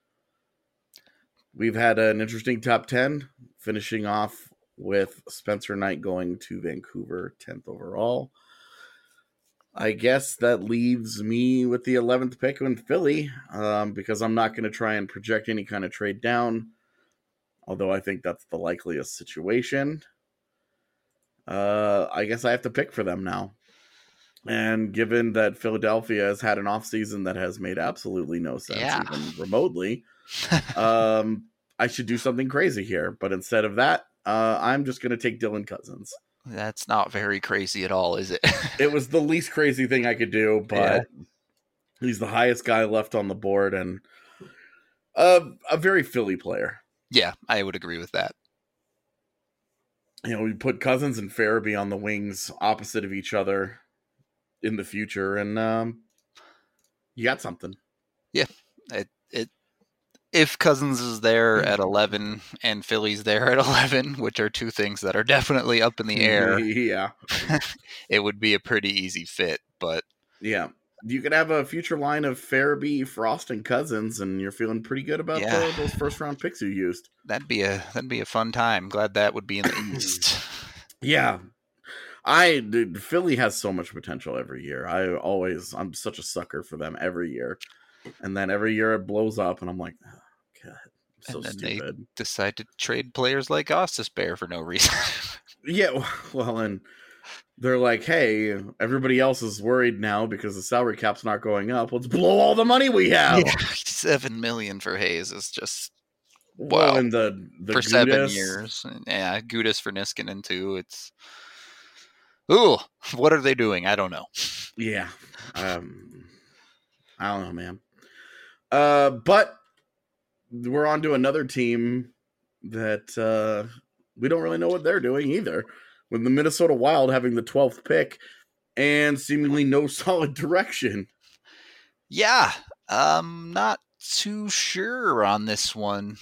We've had an interesting top ten, finishing off with Spencer Knight going to Vancouver, tenth overall. I guess that leaves me with the eleventh pick in Philly, um, because I'm not going to try and project any kind of trade down, although I think that's the likeliest situation. Uh, I guess I have to pick for them now. And given that Philadelphia has had an offseason that has made absolutely no sense, Yeah. even remotely, um, I should do something crazy here. But instead of that, uh, I'm just going to take Dylan Cousins. That's not very crazy at all, is it? It was the least crazy thing I could do, but Yeah. he's the highest guy left on the board and uh, a very Philly player. Yeah, I would agree with that. You know, we put Cousins and Farabee on the wings opposite of each other in the future, and um, you got something. Yeah, it it if Cousins is there at eleven and Philly's there at eleven, which are two things that are definitely up in the air, Yeah. it would be a pretty easy fit. But Yeah. You could have a future line of Farabee, Frost, and Cousins, and you're feeling pretty good about Yeah. the, those first round picks you used. that'd be a that'd be a fun time. Glad that would be in the East. Yeah. I dude, Philly has so much potential every year. I always I'm such a sucker for them every year. And then every year it blows up and I'm like, oh, God, I'm so And then stupid. they decide to trade players like Ostis Bear for no reason. Yeah, well, and they're like, hey, everybody else is worried now because the salary cap's not going up. Let's blow all the money we have. Yeah, Seven million for Hayes is just Well, wow. and the, the for seven Gudas- years. Yeah, Gudis for Niskanen too. It's ooh, what are they doing? I don't know. Yeah. Um, I don't know, man. Uh, but we're on to another team that uh, we don't really know what they're doing either. With the Minnesota Wild having the twelfth pick and seemingly no solid direction. Yeah, I'm not too sure on this one.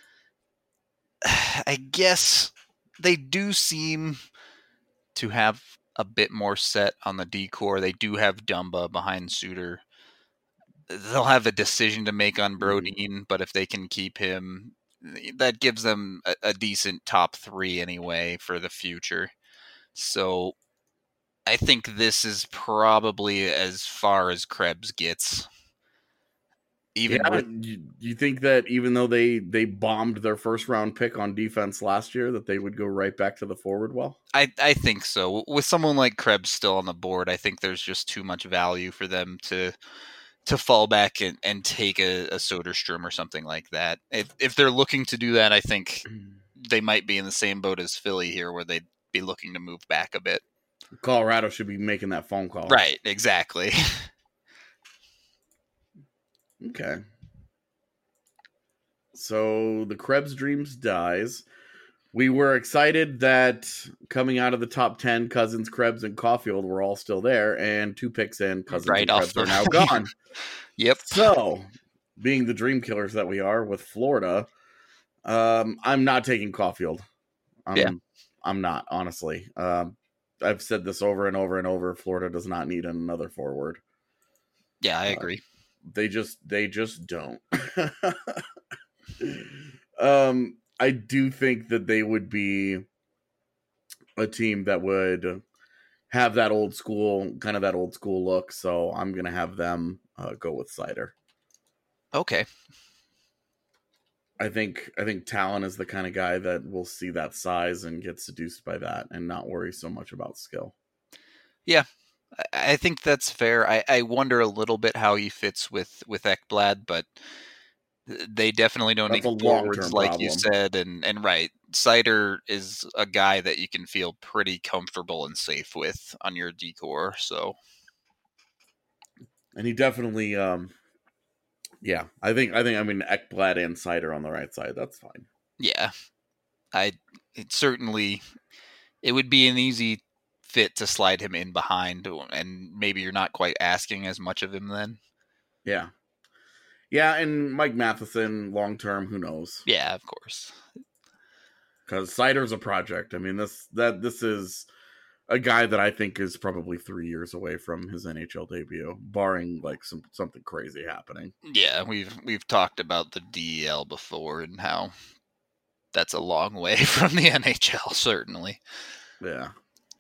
I guess they do seem to have a bit more set on the D-core. They do have Dumba behind Suter. They'll have a decision to make on Brodin, but if they can keep him, that gives them a, a decent top three anyway for the future. So I think this is probably as far as Krebs gets. Even Yeah, with, you, you think that even though they, they bombed their first round pick on defense last year, that they would go right back to the forward well? I, I think so. With someone like Krebs still on the board, I think there's just too much value for them to to fall back and, and take a, a Soderstrom or something like that. If if they're looking to do that, I think they might be in the same boat as Philly here, where they'd be looking to move back a bit. Colorado should be making that phone call. Right, exactly. Okay. So the Krebs Dreams dies. We were excited that coming out of the top ten, Cousins, Krebs, and Caulfield were all still there, and two picks in, Cousins Right and off Krebs are the- now gone. Yep. So, being the dream killers that we are with Florida, Um, I'm not taking Caulfield. I'm, Yeah. I'm not, honestly. Um, I've said this over and over and over. Florida does not need another forward. Yeah, I Uh, agree. They just they just don't. um, I do think that they would be a team that would have that old school, kind of that old school look. So I'm gonna have them uh, go with Cider. Okay. I think I think Talon is the kind of guy that will see that size and get seduced by that and not worry so much about skill. Yeah, I, I think that's fair. I, I wonder a little bit how he fits with with Ekblad, but they definitely don't That's need a forwards long-term like you problem. said. And and right, Cider is a guy that you can feel pretty comfortable and safe with on your decor. So And he definitely, um, yeah, I think I think I mean Ekblad and Cider on the right side. That's fine. yeah, I it certainly it would be an easy fit to slide him in behind, and maybe you're not quite asking as much of him then. Yeah. Yeah, and Mike Matheson, long term, who knows? Yeah, of course. Because Cider's a project. I mean, this that this is a guy that I think is probably three years away from his N H L debut, barring like some something crazy happening. Yeah, we've we've talked about the D E L before and how that's a long way from the N H L, certainly. Yeah.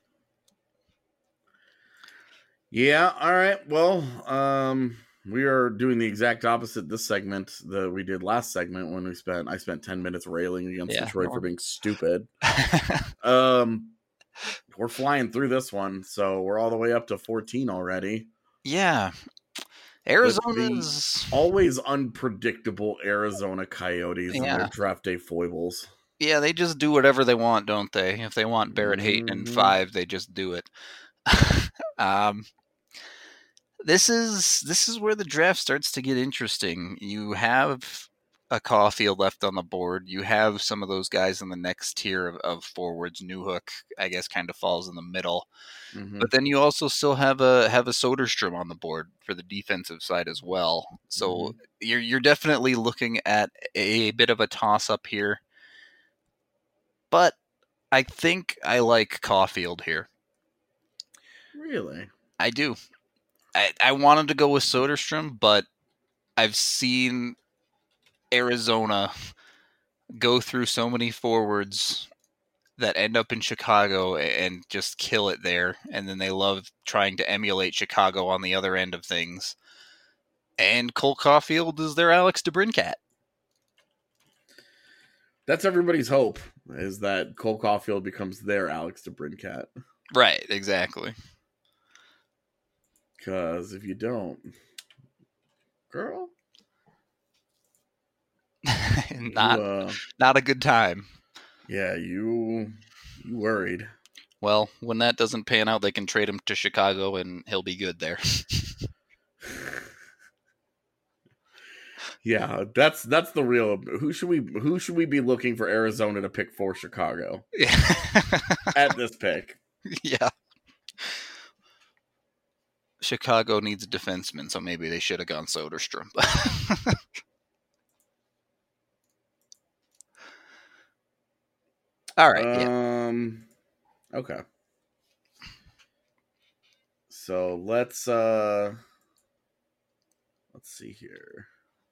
Yeah, all right. Well, um, we are doing the exact opposite this segment that we did last segment when we spent I spent ten minutes railing against Yeah, Detroit no. for being stupid. um we're flying through this one, so we're all the way up to fourteen already. Yeah. With Arizona's the always unpredictable Arizona Coyotes and Yeah. their draft day foibles. Yeah, they just do whatever they want, don't they? If they want Barrett Hayton in Mhm. five, they just do it. um This is this is where the draft starts to get interesting. You have a Caulfield left on the board. You have some of those guys in the next tier of, of forwards. Newhook, I guess, kind of falls in the middle. Mhm. But then you also still have a have a Soderstrom on the board for the defensive side as well. So Mhm. you're you're definitely looking at a bit of a toss up here. But I think I like Caulfield here. Really? I do. I, I wanted to go with Soderstrom, but I've seen Arizona go through so many forwards that end up in Chicago and just kill it there. And then they love trying to emulate Chicago on the other end of things. And Cole Caulfield is their Alex DeBrincat. That's everybody's hope, is that Cole Caulfield becomes their Alex DeBrincat. Right, exactly. Because if you don't, girl, not you, uh, not a good time. yeah, you you worried. Well, when that doesn't pan out, they can trade him to Chicago and he'll be good there. Yeah, that's that's the real. Who should we who should we be looking for Arizona to pick for Chicago at this pick? Yeah. Chicago needs a defenseman, so maybe they should have gone Soderstrom. All right. Yeah. Um. Okay. So let's uh. Let's see here.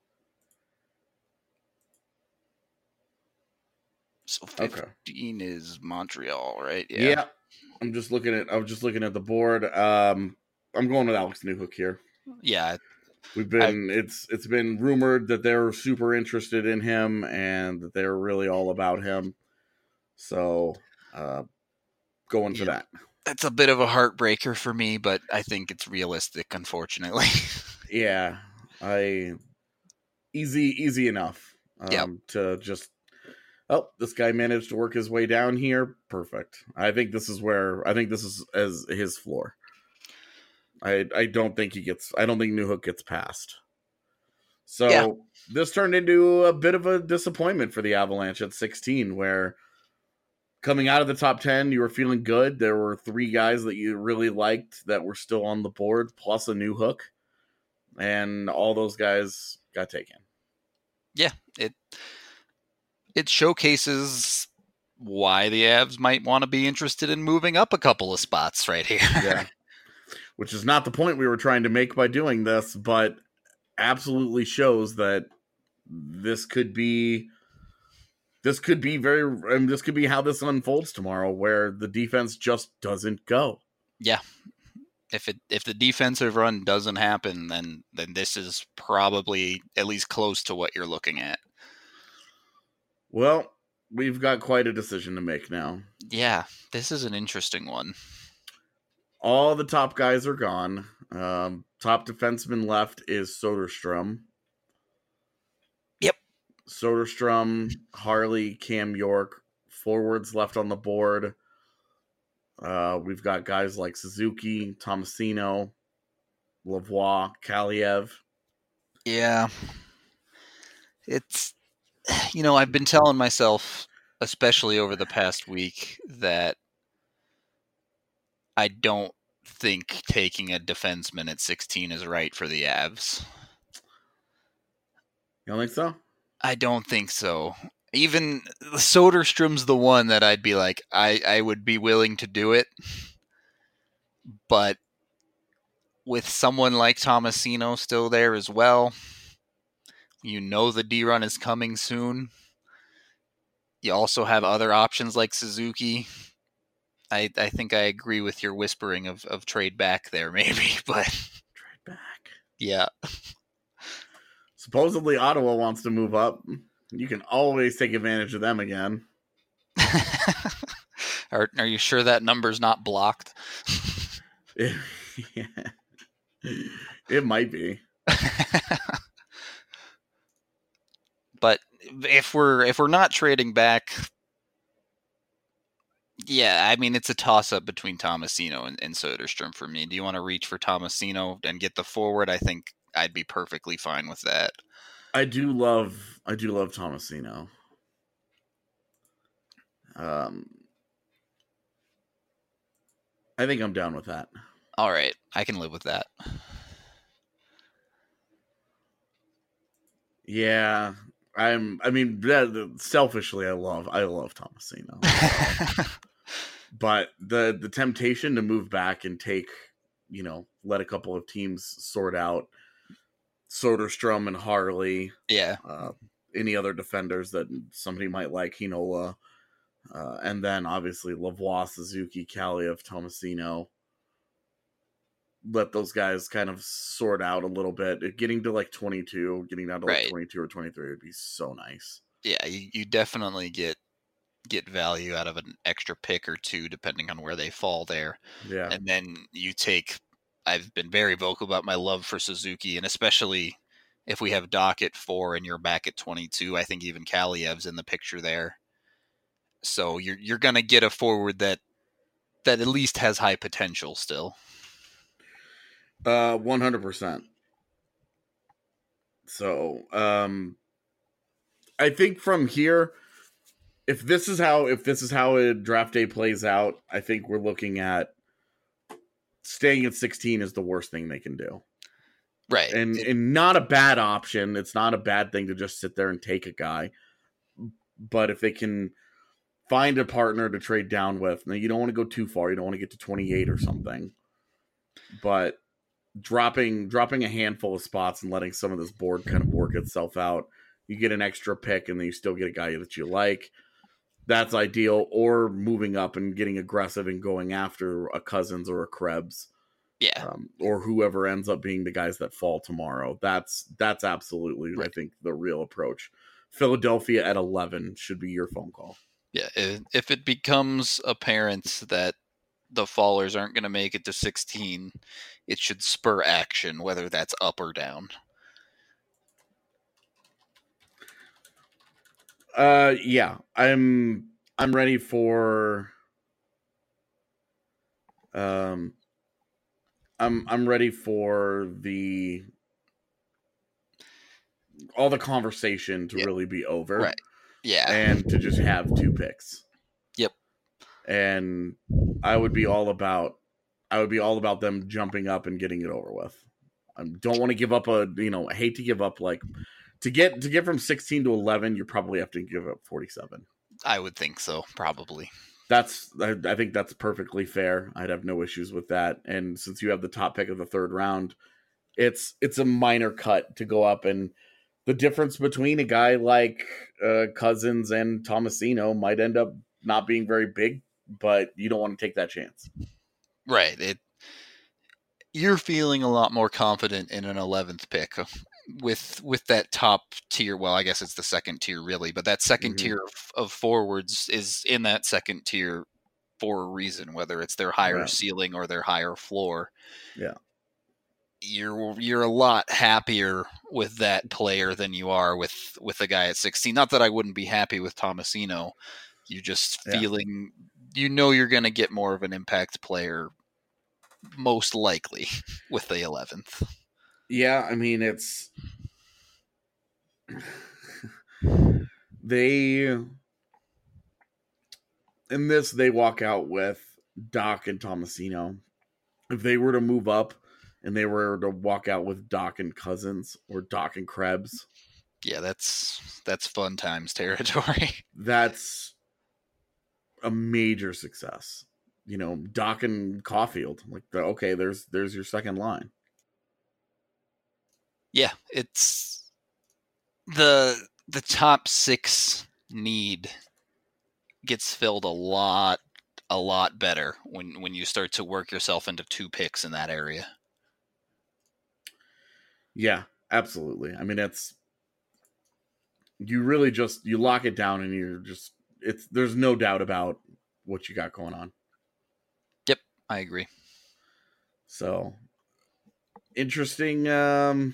So Okay. fifteen is Montreal, right? Yeah. I'm just looking at. I was just looking at the board. Um. I'm going with Alex Newhook here. Yeah. We've been. it's it's been rumored that they're super interested in him and that they're really all about him. So, uh, going for Yeah. that. That's a bit of a heartbreaker for me, but I think it's realistic, unfortunately. Yeah, I easy easy enough. Um, Yep. To just. Oh, this guy managed to work his way down here. Perfect. I think this is where I think this is as his floor. I I don't think he gets. I don't think Newhook gets past. So Yeah. this turned into a bit of a disappointment for the Avalanche at sixteen, where coming out of the top ten, you were feeling good. There were three guys that you really liked that were still on the board, plus a Newhook, and all those guys got taken. Yeah. It. it showcases why the Avs might want to be interested in moving up a couple of spots right here. Yeah. Which is not the point we were trying to make by doing this, but absolutely shows that this could be this could be very I mean, this could be how this unfolds tomorrow, where the defense just doesn't go. Yeah. If it if the defensive run doesn't happen, then then this is probably at least close to what you're looking at. Well, we've got quite a decision to make now. Yeah, this is an interesting one. All the top guys are gone. Um, top defenseman left is Soderstrom. Yep. Soderstrom, Harley, Cam York. Forwards left on the board. Uh, we've got guys like Suzuki, Tomasino, Lavoie, Kaliev. Yeah. It's, you know, I've been telling myself, especially over the past week, that I don't think taking a defenseman at sixteen is right for the Avs. You don't think so? I don't think so. Even Soderstrom's the one that I'd be like, I, I would be willing to do it. But with someone like Tomasino still there as well, you know the D-run is coming soon. You also have other options like Suzuki. I I think I agree with your whispering of, of trade back there, maybe, but Trade back. Yeah. Supposedly Ottawa wants to move up. You can always take advantage of them again. are Are you sure that number's not blocked? It, yeah. It might be. But if we're if we're not trading back, yeah, I mean it's a toss up between Tomasino and, and Soderstrom for me. Do you want to reach for Tomasino and get the forward? I think I'd be perfectly fine with that. I do love I do love Tomasino. Um I think I'm down with that. All right, I can live with that. Yeah, I'm I mean selfishly I love I love Tomasino. But the the temptation to move back and take, you know, let a couple of teams sort out Soderstrom and Harley. Yeah. Uh, any other defenders that somebody might like, Heinola. Uh, and then obviously Lavoie, Suzuki, Kaliev, Tomasino. Let those guys kind of sort out a little bit. Getting to like twenty-two, getting down to like Right. twenty-two or twenty-three would be so nice. Yeah, you, you definitely get get value out of an extra pick or two, depending on where they fall there. Yeah. And then you take, I've been very vocal about my love for Suzuki, and especially if we have Doc at four and you're back at twenty-two, I think even Kaliev's in the picture there. So you're you're gonna get a forward that that at least has high potential still. Uh, one hundred percent. So, um, I think from here, if this is how if this is how a draft day plays out, I think we're looking at staying at sixteen is the worst thing they can do. Right. And and not a bad option. It's not a bad thing to just sit there and take a guy. But if they can find a partner to trade down with, now you don't want to go too far. You don't want to get to twenty-eight or something. But dropping dropping a handful of spots and letting some of this board kind of work itself out, you get an extra pick and then you still get a guy that you like. That's ideal. Or moving up and getting aggressive and going after a Cousins or a Krebs. Yeah. Um, or whoever ends up being the guys that fall tomorrow. That's that's absolutely, Right. I think, the real approach. Philadelphia at eleven should be your phone call. Yeah. If, if it becomes apparent that the fallers aren't going to make it to sixteen, it should spur action, whether that's up or down. Uh, yeah, I'm I'm ready for. Um, I'm I'm ready for the all the conversation to Yeah. really be over, Right. Yeah. and to just have two picks. Yep. And I would be all about I would be all about them jumping up and getting it over with. I don't want to give up a you know I hate to give up like to get to get from sixteen to eleven, you probably have to give up forty-seven. I would think so, probably. That's I, I think that's perfectly fair. I'd have no issues with that. And since you have the top pick of the third round, it's it's a minor cut to go up, and the difference between a guy like uh, Cousins and Tomasino might end up not being very big, but you don't want to take that chance. Right. It. You're feeling a lot more confident in an eleventh pick with with that top tier. Well, I guess it's the second tier really, but that second mm-hmm. tier of, of forwards is in that second tier for a reason, whether it's their higher right. ceiling or their higher floor. Yeah. You're you're a lot happier with that player than you are with with a guy at sixteen. Not that I wouldn't be happy with Tomasino. You're just yeah. feeling, you know, you're going to get more of an impact player, most likely, with the eleventh. Yeah, I mean, it's they in this they walk out with Doc and Tomasino. If they were to move up and they were to walk out with Doc and Cousins or Doc and Krebs, yeah, that's that's fun times territory. That's a major success. You know, Doc and Caulfield, like the, okay, there's there's your second line. Yeah, it's the the top six need gets filled a lot a lot better when when you start to work yourself into two picks in that area. Yeah, absolutely. I mean, it's you really just you lock it down and you're just it's there's no doubt about what you got going on. Yep, I agree. So interesting. Um,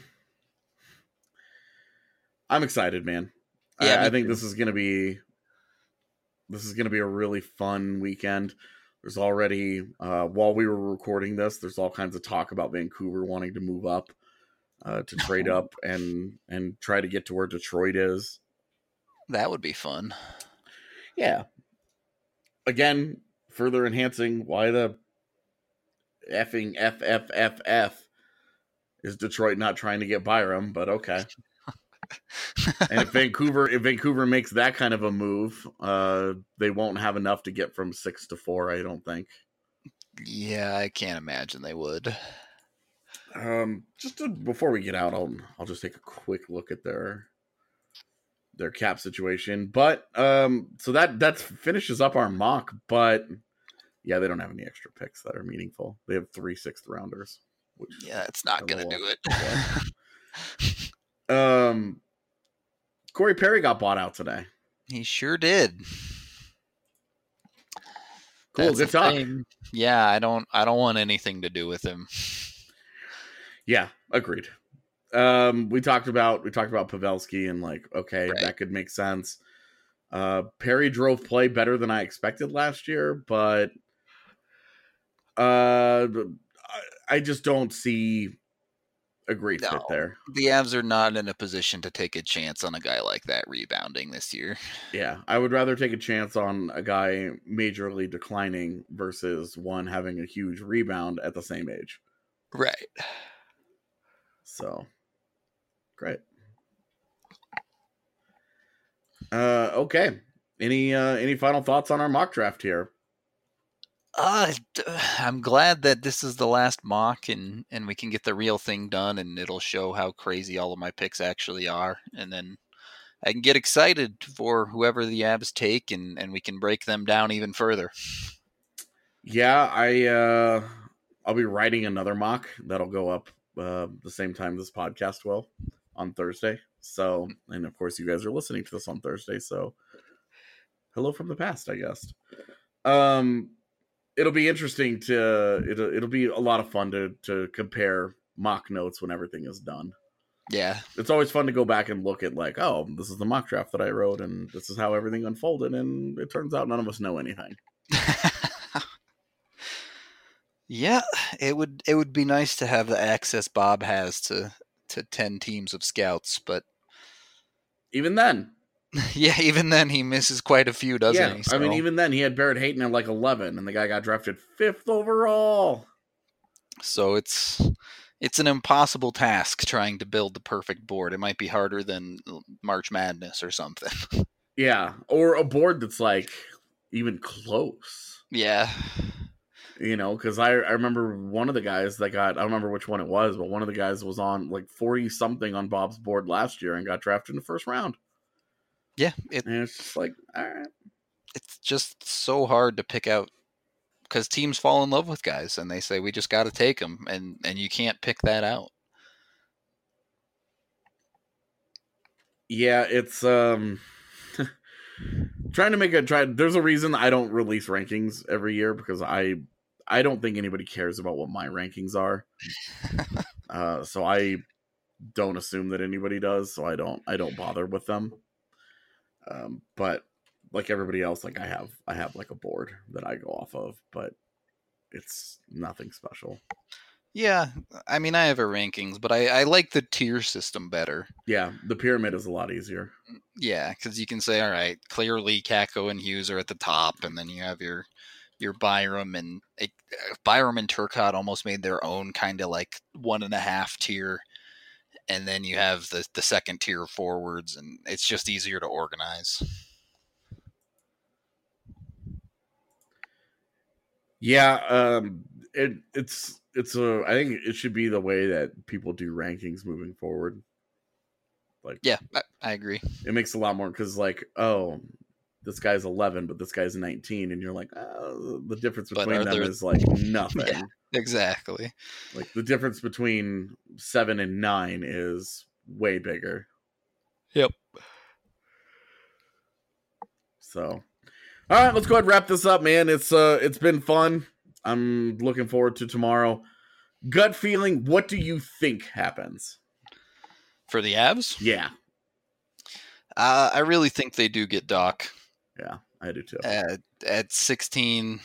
I'm excited, man. Yeah, I, I think too. this is gonna be this is gonna be a really fun weekend. There's already uh, while we were recording this, there's all kinds of talk about Vancouver wanting to move up uh, to trade up and and try to get to where Detroit is. That would be fun. Yeah. Again, further enhancing why the effing F F F F is Detroit not trying to get Byram, but okay. And if Vancouver, if Vancouver makes that kind of a move, uh, they won't have enough to get from six to four, I don't think. Yeah, I can't imagine they would. Um, just to, before we get out, I'll I'll just take a quick look at their their cap situation. But um, so that that finishes up our mock. But yeah, they don't have any extra picks that are meaningful. They have three sixth rounders. Which yeah, it's not gonna do it. um, Corey Perry got bought out today. He sure did. Cool, That's good talk. Thing. Yeah, I don't I don't want anything to do with him. Yeah, agreed. Um, we talked about we talked about Pavelski and like, okay, right. that could make sense. Uh, Perry drove play better than I expected last year, but uh, I just don't see a great no, fit there. The Avs are not in a position to take a chance on a guy like that rebounding this year. Yeah, I would rather take a chance on a guy majorly declining versus one having a huge rebound at the same age. Right. So, great. Uh, okay. Any uh, any final thoughts on our mock draft here? Uh, I'm glad that this is the last mock and, and we can get the real thing done and it'll show how crazy all of my picks actually are. And then I can get excited for whoever the Avs take and, and we can break them down even further. Yeah, I, uh, I'll be writing another mock that'll go up uh, the same time this podcast will on Thursday. So, and of course you guys are listening to this on Thursday. So hello from the past, I guess. Um, It'll be interesting to it'll it'll be a lot of fun to to compare mock notes when everything is done. Yeah. It's always fun to go back and look at like, oh, this is the mock draft that I wrote and this is how everything unfolded, and it turns out none of us know anything. Yeah, it would it would be nice to have the access Bob has to to ten teams of scouts, but even then. Yeah, even then he misses quite a few, doesn't yeah, he? So. I mean, even then he had Barrett Hayton at like eleven, and the guy got drafted fifth overall. So it's It's an impossible task trying to build the perfect board. It might be harder than March Madness or something. Yeah, or a board that's like even close. Yeah. You know, because I, I remember one of the guys that got, I don't remember which one it was, but one of the guys was on like forty something on Bob's board last year and got drafted in the first round. Yeah. It, and it's just like, all right. It's just so hard to pick out because teams fall in love with guys and they say, we just got to take them. And, and you can't pick that out. Yeah, it's um trying to make a try. There's a reason I don't release rankings every year because I I don't think anybody cares about what my rankings are. uh, so I don't assume that anybody does. So I don't I don't bother with them. Um, but like everybody else, like I have I have like a board that I go off of, but it's nothing special. Yeah, I mean, I have a rankings, but I, I like the tier system better. Yeah, the pyramid is a lot easier. Yeah, because you can say, all right, clearly Kako and Hughes are at the top, and then you have your your Byram and it, Byram and Turcotte almost made their own kind of like one and a half tier, and then you have the the second tier forwards, and it's just easier to organize. Yeah, um, it it's. It's a. I think it should be the way that people do rankings moving forward. Like, yeah, I, I agree. It makes a lot more because, like, oh, this guy's eleven, but this guy's nineteen, and you're like, oh, the difference between them there... is like nothing. Yeah, exactly. Like the difference between seven and nine is way bigger. Yep. So, all right, let's go ahead and wrap this up, man. It's uh, it's been fun. I'm looking forward to tomorrow. Gut feeling, what do you think happens? For the Avs? Yeah. Uh, I really think they do get Doc. Yeah, I do too. At, at sixteen,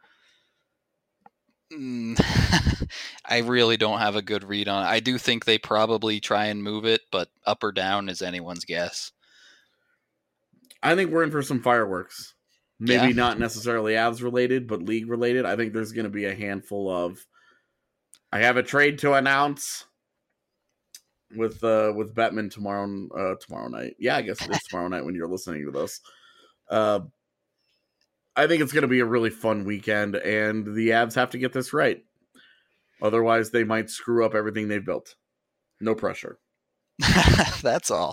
mm, I really don't have a good read on it. I do think they probably try and move it, but up or down is anyone's guess. I think we're in for some fireworks. Maybe yeah. not necessarily Avs related, but league related. I think there's going to be a handful of. I have a trade to announce with uh, with Bettman tomorrow uh, tomorrow night. Yeah, I guess it is tomorrow night when you're listening to this. Uh, I think it's going to be a really fun weekend, and the Avs have to get this right. Otherwise, they might screw up everything they've built. No pressure. That's all.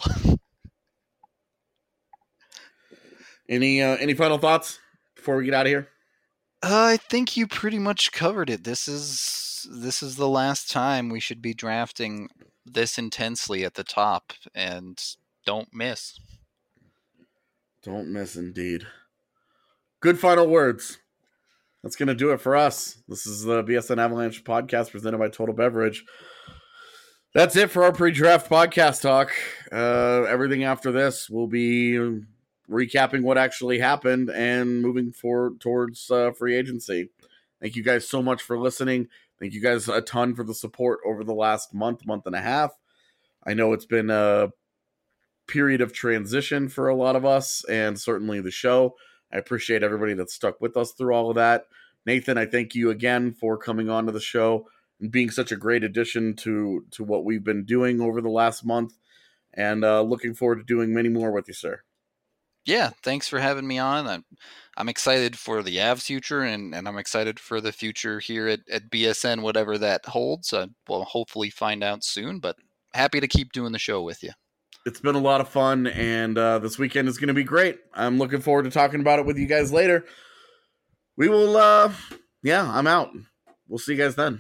Any uh, any final thoughts before we get out of here? Uh, I think you pretty much covered it. This is this is the last time we should be drafting this intensely at the top, and don't miss. Don't miss, indeed. Good final words. That's going to do it for us. This is the B S N Avalanche podcast presented by Total Beverage. That's it for our pre-draft podcast talk. Uh, everything after this will be recapping what actually happened and moving forward towards uh, free agency. Thank you guys so much for listening. Thank you guys a ton for the support over the last month, month and a half. I know it's been a period of transition for a lot of us and certainly the show. I appreciate everybody that stuck with us through all of that. Nathan, I thank you again for coming on to the show and being such a great addition to, to what we've been doing over the last month, and uh, looking forward to doing many more with you, sir. Yeah, thanks for having me on. I'm, I'm excited for the Avs future, and, and I'm excited for the future here at, at B S N, whatever that holds. Uh, we'll hopefully find out soon, but happy to keep doing the show with you. It's been a lot of fun, and uh, this weekend is going to be great. I'm looking forward to talking about it with you guys later. We will, uh, yeah, I'm out. We'll see you guys then.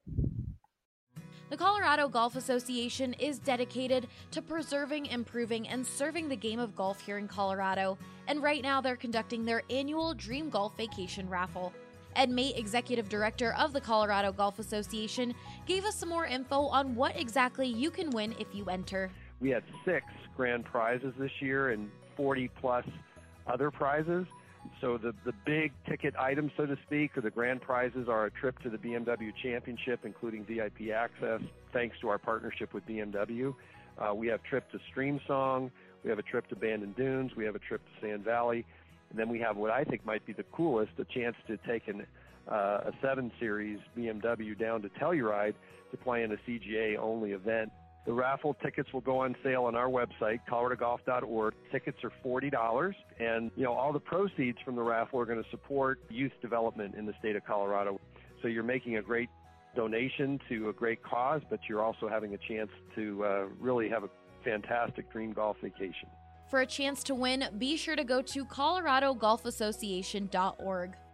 The Colorado Golf Association is dedicated to preserving, improving, and serving the game of golf here in Colorado, and right now they're conducting their annual Dream Golf Vacation Raffle. Ed Mate, Executive Director of the Colorado Golf Association, gave us some more info on what exactly you can win if you enter. We had six grand prizes this year and forty plus other prizes. So the, the big ticket items, so to speak, or the grand prizes are a trip to the B M W Championship, including V I P access, thanks to our partnership with B M W. Uh, we have a trip to Streamsong. We have a trip to Bandon Dunes. We have a trip to Sand Valley. And then we have what I think might be the coolest, a chance to take an uh, a seven series B M W down to Telluride to play in a C G A-only event. The raffle tickets will go on sale on our website, colorado golf dot org. Tickets are forty dollars, and you know all the proceeds from the raffle are going to support youth development in the state of Colorado. So you're making a great donation to a great cause, but you're also having a chance to uh, really have a fantastic dream golf vacation. For a chance to win, be sure to go to colorado golf association dot org.